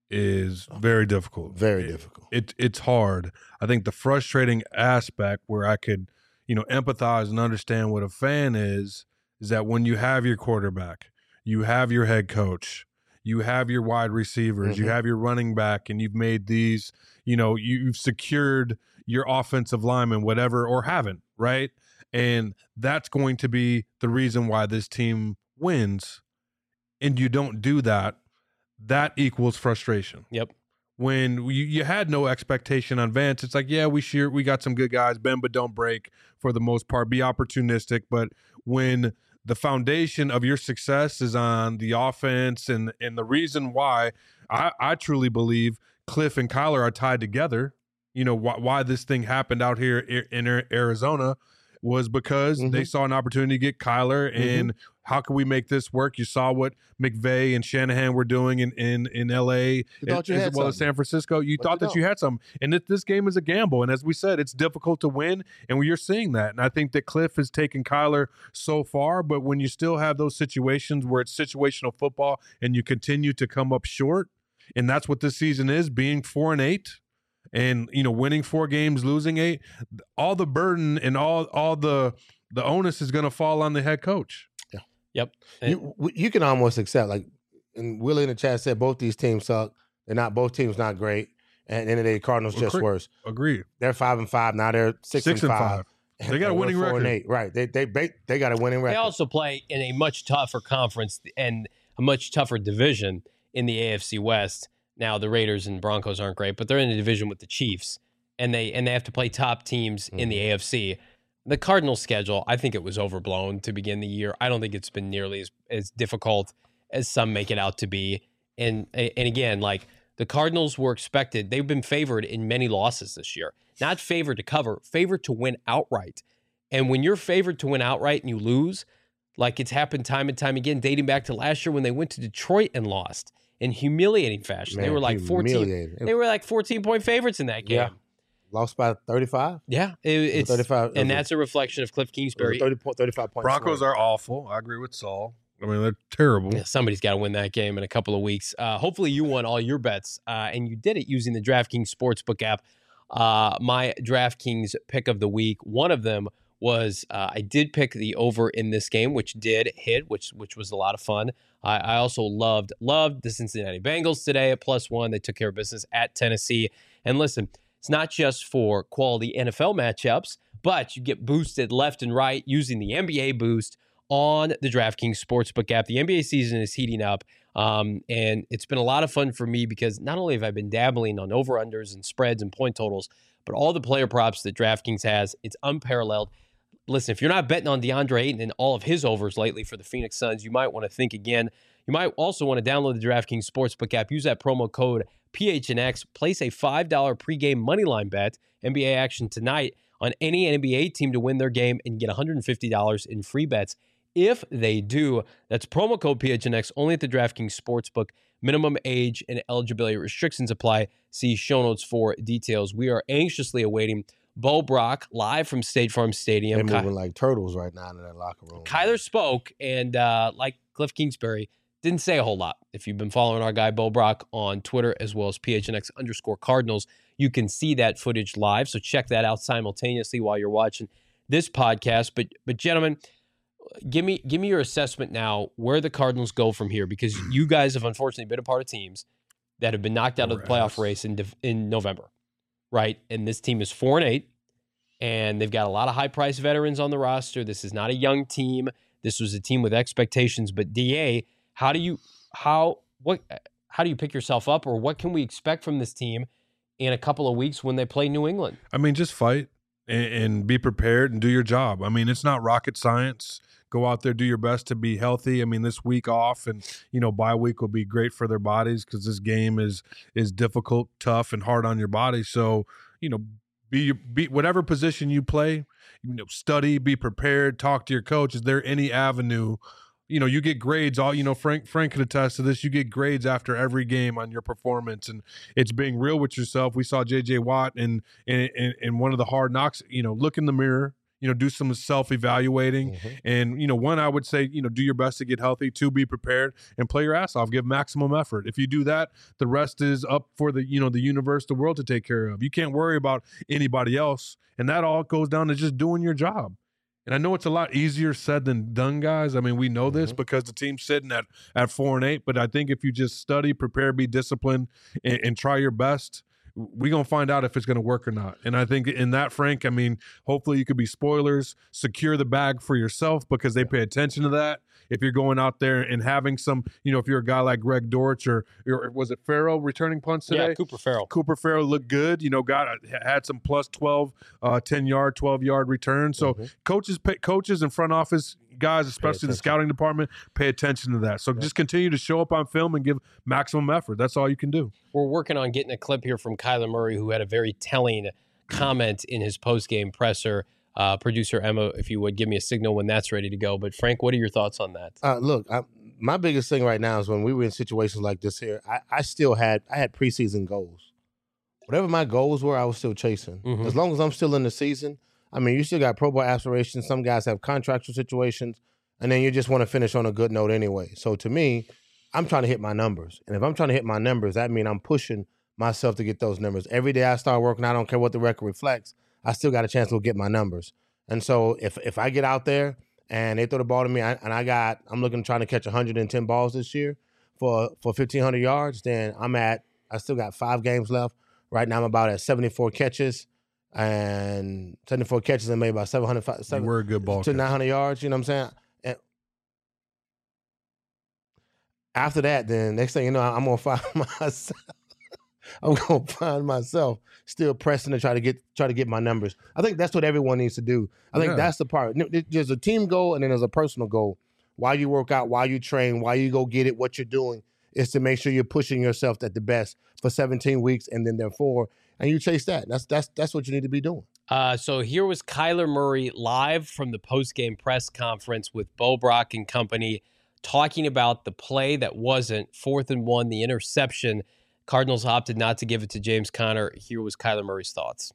is very difficult. Very it, difficult. It it's hard. I think the frustrating aspect where I could, you know, empathize and understand what a fan is, is that when you have your quarterback, you have your head coach, you have your wide receivers, mm-hmm. you have your running back, and you've made these, you know, you've secured your offensive lineman, whatever, or haven't, right? And that's going to be the reason why this team wins. And you don't do that, that equals frustration. Yep. When you, you had no expectation on Vance, it's like, yeah, we sure we got some good guys, bend but don't break for the most part, be opportunistic. But when the foundation of your success is on the offense, and and the reason why I, I truly believe Cliff and Kyler are tied together, you know, why, why this thing happened out here in Arizona was because mm-hmm. they saw an opportunity to get Kyler, and mm-hmm. how can we make this work? You saw what McVay and Shanahan were doing in in, in L A as, as well as San Francisco. You but thought you that don't. you had some, and that this game is a gamble. And as we said, it's difficult to win, and you're seeing that. And I think that Cliff has taken Kyler so far, but when you still have those situations where it's situational football and you continue to come up short, and that's what this season is, being four and eight. And, you know, winning four games, losing eight, all the burden and all all the the onus is going to fall on the head coach. Yeah. Yep. You, you can almost accept, like, and Willie in the chat said both these teams suck. They're not, both teams not great. And at the end of the day, Cardinals just Agreed. worse. Agreed. They're five and five. Now they're six, six and, and five. five. They got a winning four record. And eight. Right. They, they, they, they got a winning record. They also play in a much tougher conference and a much tougher division in the A F C West. Now, the Raiders and Broncos aren't great, but they're in a division with the Chiefs. And they and they have to play top teams mm-hmm. in the A F C. The Cardinals' schedule, I think it was overblown to begin the year. I don't think it's been nearly as, as difficult as some make it out to be. And and again, like the Cardinals were expected, they've been favored in many losses this year. Not favored to cover, favored to win outright. And when you're favored to win outright and you lose, like it's happened time and time again, dating back to last year when they went to Detroit and lost in humiliating fashion. Man, they were like fourteen. They were like fourteen point favorites in that game. Yeah. Lost by thirty-five? Yeah. It, it's thirty-five. And that's a reflection of Cliff Kingsbury. thirty, thirty-five points. Broncos swing. Are awful. I agree with Saul. I mean, they're terrible. Yeah, somebody's got to win that game in a couple of weeks. Uh, hopefully you won all your bets, uh, and you did it using the DraftKings Sportsbook app. Uh, my DraftKings pick of the week, one of them was uh, I did pick the over in this game, which did hit, which which was a lot of fun. I, I also loved, loved the Cincinnati Bengals today at plus one. They took care of business at Tennessee. And listen, it's not just for quality N F L matchups, but you get boosted left and right using the N B A boost on the DraftKings Sportsbook app. The N B A season is heating up, um, and it's been a lot of fun for me because not only have I been dabbling on over-unders and spreads and point totals, but all the player props that DraftKings has, it's unparalleled. listen, if you're not betting on DeAndre Ayton and all of his overs lately for the Phoenix Suns, you might want to think again. You might also want to download the DraftKings Sportsbook app. Use that promo code P H N X. Place a five dollar pregame moneyline bet, N B A action tonight, on any N B A team to win their game and get one hundred fifty dollars in free bets if they do. That's promo code P H N X only at the DraftKings Sportsbook. Minimum age and eligibility restrictions apply. See show notes for details. We are anxiously awaiting Bo Brock live from State Farm Stadium. They're moving Ky- like turtles right now in that locker room. Kyler spoke, and uh, like Cliff Kingsbury, didn't say a whole lot. If you've been following our guy Bo Brock on Twitter as well as P H N X underscore Cardinals, you can see that footage live. So check that out simultaneously while you're watching this podcast. But but gentlemen, give me give me your assessment now where the Cardinals go from here, because you guys have unfortunately been a part of teams that have been knocked out of the playoff race in in November, right? And this team is four and eight, and they've got a lot of high priced veterans on the roster. This is not a young team. This was a team with expectations. But D A, how do you how what how do you pick yourself up, or what can we expect from this team in a couple of weeks when they play New England? I mean, just fight and, and be prepared and do your job. I mean, it's not rocket science. Go out there, do your best to be healthy. I mean, this week off and, you know, bye week will be great for their bodies because this game is is difficult, tough, and hard on your body. So, you know, be be whatever position you play, you know, study, be prepared, talk to your coach. Is there any avenue? You know, you get grades all, you know, Frank Frank could attest to this. You get grades after every game on your performance, and it's being real with yourself. We saw J J Watt in in, in, in one of the hard knocks, you know, look in the mirror, you know, do some self-evaluating. Mm-hmm. And, you know, one, I would say, you know, do your best to get healthy. Two, be prepared and play your ass off. Give maximum effort. If you do that, the rest is up for the, you know, the universe, the world to take care of. You can't worry about anybody else. And that all goes down to just doing your job. And I know it's a lot easier said than done, guys. I mean, we know this mm-hmm. because the team's sitting at, at four and eight. But I think if you just study, prepare, be disciplined, and, and try your best, we're going to find out if it's going to work or not. And I think in that, Frank, I mean, hopefully you could be spoilers, secure the bag for yourself because they pay attention to that. If you're going out there and having some, you know, if you're a guy like Greg Dortch or, or was it Farrell returning punts today? Yeah, Cooper Farrell. Cooper Farrell looked good. You know, got had some plus twelve, uh, ten-yard, twelve-yard returns. So mm-hmm. coaches, pay, coaches and front office guys, especially the scouting department, pay attention to that. So yeah. just continue to show up on film and give maximum effort. That's all you can do. We're working on getting a clip here from Kyler Murray, who had a very telling comment in his post-game presser. Uh, producer Emma, if you would give me a signal when that's ready to go. But Frank, what are your thoughts on that? Uh, look, I, my biggest thing right now is when we were in situations like this here, I, I still had I had preseason goals. Whatever my goals were, I was still chasing. Mm-hmm. As long as I'm still in the season, I mean, you still got Pro Bowl aspirations. Some guys have contractual situations, and then you just want to finish on a good note anyway. So to me, I'm trying to hit my numbers. And if I'm trying to hit my numbers, that means I'm pushing myself to get those numbers. Every day I start working, I don't care what the record reflects, I still got a chance to go get my numbers. And so if if I get out there and they throw the ball to me, I, and I got, I'm looking trying to catch one hundred ten balls this year for for fifteen hundred yards, then I'm at, I still got five games left. Right now I'm about at seventy-four catches and seventy-four catches and maybe about seven hundred, seven, we're a good ball to nine hundred yards. You know what I'm saying? And after that, then next thing you know, I'm gonna find myself. I'm gonna find myself still pressing to try to get try to get my numbers. I think that's what everyone needs to do. I think yeah. that's the part. There's a team goal and then there's a personal goal. Why you work out, why you train, why you go get it, what you're doing is to make sure you're pushing yourself at the best for seventeen weeks and then therefore, and you chase that. That's that's that's what you need to be doing. Uh, so here was Kyler Murray live from the post-game press conference with Bo Brock and company talking about the play that wasn't fourth and one, the interception. Cardinals opted not to give it to James Conner. Here was Kyler Murray's thoughts.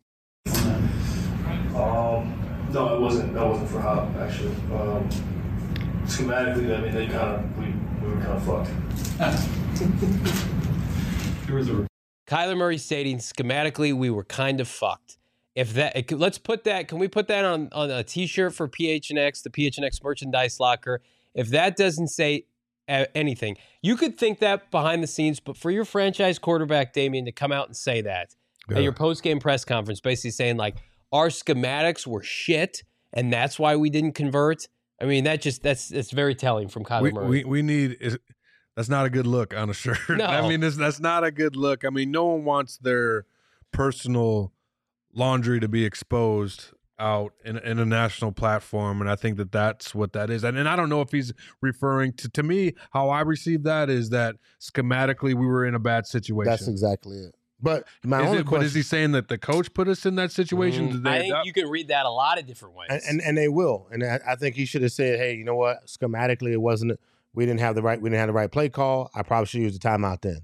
Um, no, it wasn't. That wasn't for Hop, actually. Um, schematically, I mean, they kind of we, we were kind of fucked. There was a Kyler Murray stating schematically we were kind of fucked. If that, it, let's put that. Can we put that on on a T-shirt for P H N X, the P H N X merchandise locker? If that doesn't say anything, you could think that behind the scenes, but for your franchise quarterback Damian to come out and say that yeah. at your post-game press conference, basically saying like our schematics were shit and that's why we didn't convert. I mean, that just that's that's very telling from Kyler we, Murray. We we need is that's not a good look on a shirt. No. I mean, that's that's not a good look. I mean, no one wants their personal laundry to be exposed out in, in a national platform, and I think that that's what that is. And, and I don't know if he's referring to, to me, how I received that is that schematically we were in a bad situation. That's exactly it. But my is only it, question, but is he saying that the coach put us in that situation? Mm, They, I think that, you can read that a lot of different ways. and, and, and they will. And I, I think he should have said, hey, you know what? Schematically, it wasn't, we didn't have the right, we didn't have the right play call. I probably should use the timeout then.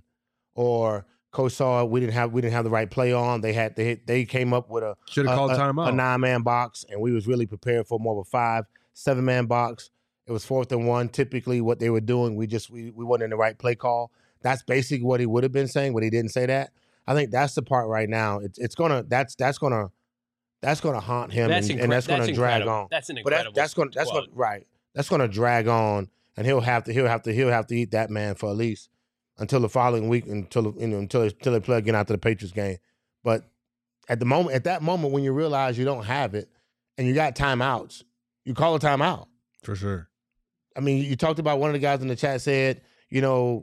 Or coach saw we didn't have, we didn't have the right play on. They had, they, they came up with a, should have called a, timeout. a nine man box, and we was really prepared for more of a five, seven man box. It was fourth and one. Typically what they were doing, we just, we, we weren't in the right play call. That's basically what he would have been saying, but he didn't say that. I think that's the part right now. It's it's gonna that's that's gonna that's gonna haunt him, that's and, incre- and that's gonna that's drag incredible. on. That's an But incredible that, that's gonna that's quote. gonna right. That's gonna drag on, and he'll have to he'll have to he'll have to eat that man for at least until the following week, until you know until until they play again after the Patriots game. But at the moment, at that moment when you realize you don't have it, and you got timeouts, you call a timeout. For sure. I mean, you talked about one of the guys in the chat said, you know,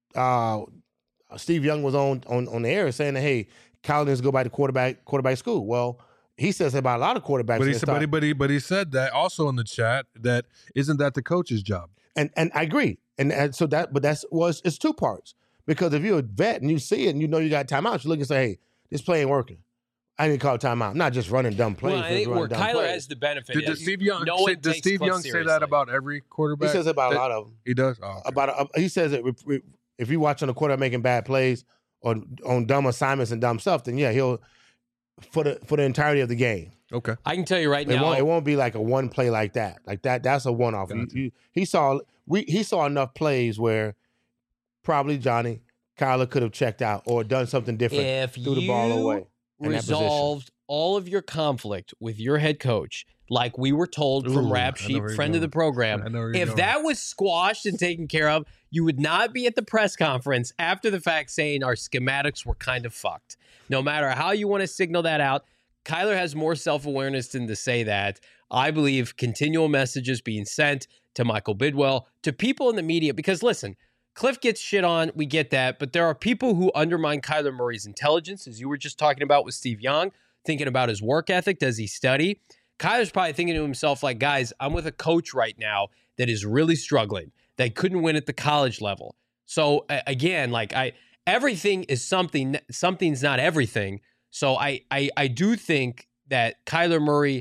uh, Steve Young was on on on the air saying that, hey, Kyle needs to go back to quarterback quarterback school. Well, he says that about a lot of quarterbacks. But he, that said, but, he, start- but, he, but he said that also in the chat that isn't that the coach's job? and and I agree. And, and so that, but that's was it's two parts, because if you're a vet and you see it and you know you got timeouts, you look and say, hey, this play ain't working. I need to call a timeout. Not just running dumb plays. Well, I think running where dumb Kyler plays. has the benefit. Did, is does Steve Young, no say, one does takes Steve Cliff Young say seriously. that about every quarterback? He says it about That- a lot of them. He does? Oh, okay. About uh, he says that if, if you're watching a quarterback making bad plays or on dumb assignments and dumb stuff, then yeah, he'll for the for the entirety of the game. Okay. I can tell you right It now. won't, it won't be like a one play like that. Like that, that's a one off. Gotcha. He saw we he saw enough plays where probably Johnny Kyler could have checked out or done something different, if threw you the ball away. in that position. resolved all of your conflict with your head coach, like we were told from Ooh, Rap I know Sheet, where you're friend of the going. program, I know where you're if going. that was squashed and taken care of, you would not be at the press conference after the fact saying our schematics were kind of fucked. No matter how you want to signal that out, Kyler has more self-awareness than to say that. I believe continual messages being sent to Michael Bidwell, to people in the media, because listen, Cliff gets shit on, we get that, but there are people who undermine Kyler Murray's intelligence, as you were just talking about with Steve Young, thinking about his work ethic. Does he study? Kyler's probably thinking to himself, like, guys, I'm with a coach right now that is really struggling, that couldn't win at the college level. So uh, again, like I, everything is something, something's not everything. So I, I, I do think that Kyler Murray,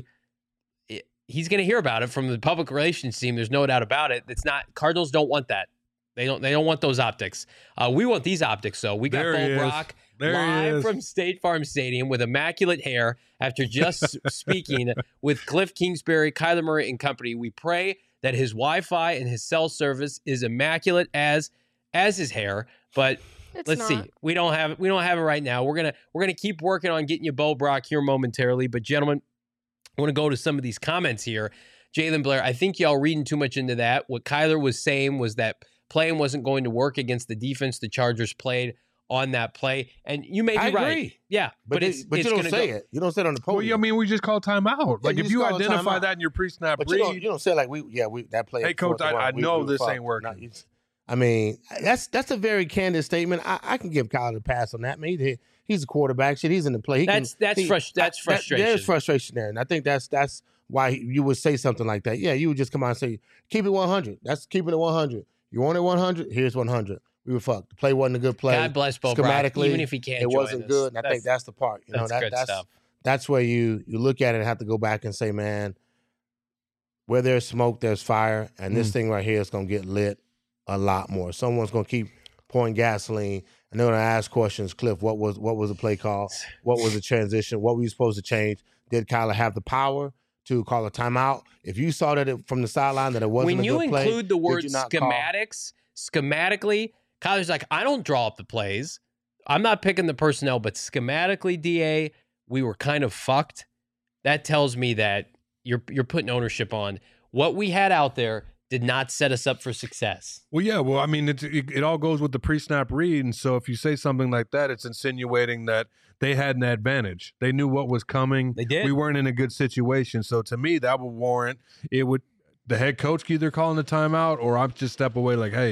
he's going to hear about it from the public relations team. There's no doubt about it. It's not, Cardinals don't want that. They don't, they don't want those optics. Uh, we want these optics, though. We got There he Bo is. Brock There he live is. from State Farm Stadium with immaculate hair after just speaking with Cliff Kingsbury, Kyler Murray, and company. We pray that his Wi-Fi and his cell service is immaculate as as his hair. But It's let's not. see. We don't have it. We don't have it right now. We're gonna we're gonna keep working on getting you Bo Brock here momentarily. But gentlemen, I want to go to some of these comments here. Jalen Blair, I think y'all reading too much into that. What Kyler was saying was that playing wasn't going to work against the defense the Chargers played on that play. And you may be I right. agree. Yeah. But, But, they- it's but it's you don't gonna say go, it. You don't say it on the Well, podium. yeah, I mean, we just call timeout. Like, you if just you call a identify timeout. that in your pre-snap But you don't, read, you don't say like we yeah we that play. Hey, at coach, fourth and I- one, I we- know we this fucked. ain't working. No, it's- I mean, that's that's a very candid statement. I, I can give Kyler a pass on that. I mean, he, he's a quarterback. Shit, he's in the play. He That's can, that's he, frust- that's that- frustration. There's frustration there, and I think that's that's why he, you would say something like that. Yeah, you would just come out and say, "Keep it one hundred." That's keeping it one hundred. You want it one hundred? Here's one hundred. We were fucked. The play wasn't a good play. God bless Bo Brock, Schematically, even if he can't it join wasn't us. good. And I think that's the part. You know, that's that, good that's stuff. that's where you you look at it and have to go back and say, man, where there's smoke, there's fire, and this Mm. thing right here is gonna get lit a lot more. Someone's gonna keep pouring gasoline, and they're gonna ask questions. Cliff, what was what was the play call? What was the transition? What were you supposed to change? Did Kyler have the power to call a timeout? If you saw that it, from the sideline that it wasn't When a you good play, include the did word you not call- schematics, schematically, Kyler's like, I don't draw up the plays. I'm not picking the personnel, but schematically, D A, we were kind of fucked. That tells me that you're you're putting ownership on what we had out there did not set us up for success. well, yeah, well, I mean, it, it, it all goes with the pre-snap read, and so if you say something like that, it's insinuating that they had an advantage. They knew what was coming. They did. We weren't in a good situation, so to me, that would warrant it would the head coach either calling the timeout or I just step away like, hey,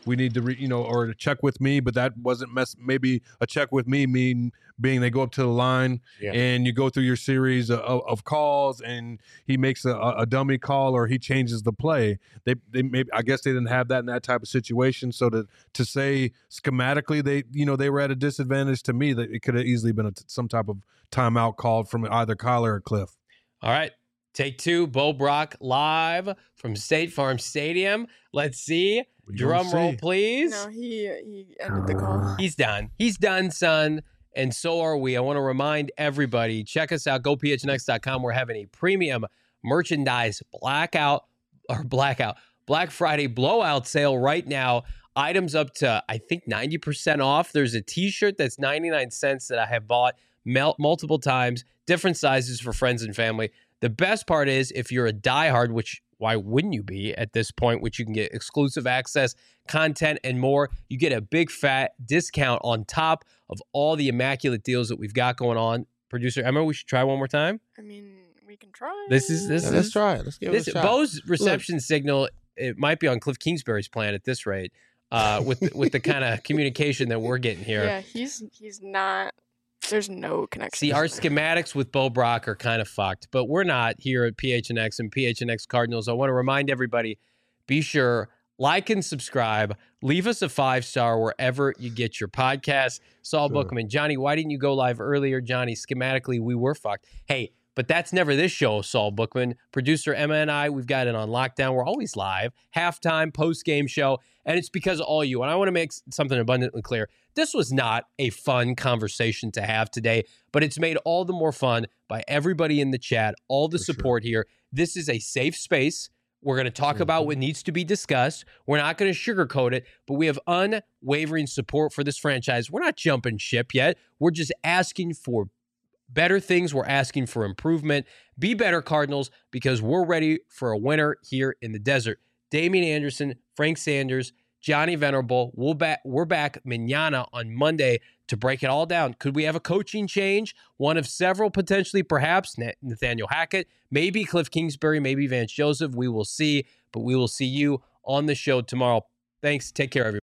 we need to, re, you know, or to check with me, but that wasn't mess. Maybe a check with me mean being they go up to the line Yeah. and you go through your series of, of calls and he makes a, a dummy call or he changes the play. They, they maybe, I guess they didn't have that in that type of situation. So to, to say schematically, they, you know, they were at a disadvantage to me that it could have easily been a, some type of timeout called from either Kyler or Cliff. All right. Take two, Bo Brock live from State Farm Stadium. Let's see. We Drum gonna roll, see. please. No, he he ended the call. He's done. He's done, son. And so are we. I want to remind everybody, check us out, go P H N X dot com. We're having a premium merchandise blackout or blackout, Black Friday blowout sale right now. Items up to, I think, ninety percent off. There's a t-shirt that's ninety-nine cents that I have bought mel- multiple times, different sizes for friends and family. The best part is if you're a diehard, which why wouldn't you be at this point, which you can get exclusive access, content, and more. You get a big fat discount on top of all the immaculate deals that we've got going on. Producer Emma, we should try one more time. I mean, we can try. This is this Yeah, is let's try it. Let's give this it a shot. Bo's reception signal. It might be on Cliff Kingsbury's plan at this rate, uh, with the, with the kind of communication that we're getting here. Yeah, he's he's not. There's no connection. See, our schematics with Bo Brock are kind of fucked, but we're not here at P H N X and P H N X Cardinals. I want to remind everybody, be sure, like and subscribe. Leave us a five-star wherever you get your podcasts. Saul Sure. Bookman. Johnny, why didn't you go live earlier? Johnny, schematically, we were fucked. Hey, but that's never this show, Saul Bookman. Producer Emma and I, we've got it on lockdown. We're always live, halftime, post-game show, and it's because of all you. And I want to make something abundantly clear. This was not a fun conversation to have today, but it's made all the more fun by everybody in the chat, all the For sure. support here. This is a safe space. We're going to talk Mm-hmm. about what needs to be discussed. We're not going to sugarcoat it, but we have unwavering support for this franchise. We're not jumping ship yet. We're just asking for better things. We're asking for improvement. Be better, Cardinals, because we're ready for a winner here in the desert. Damian Anderson, Frank Sanders, Johnny Venerable. We'll back, we're back mañana on Monday to break it all down. Could we have a coaching change? One of several, potentially, perhaps. Nathaniel Hackett, maybe Cliff Kingsbury, maybe Vance Joseph. We will see, but we will see you on the show tomorrow. Thanks. Take care, everybody.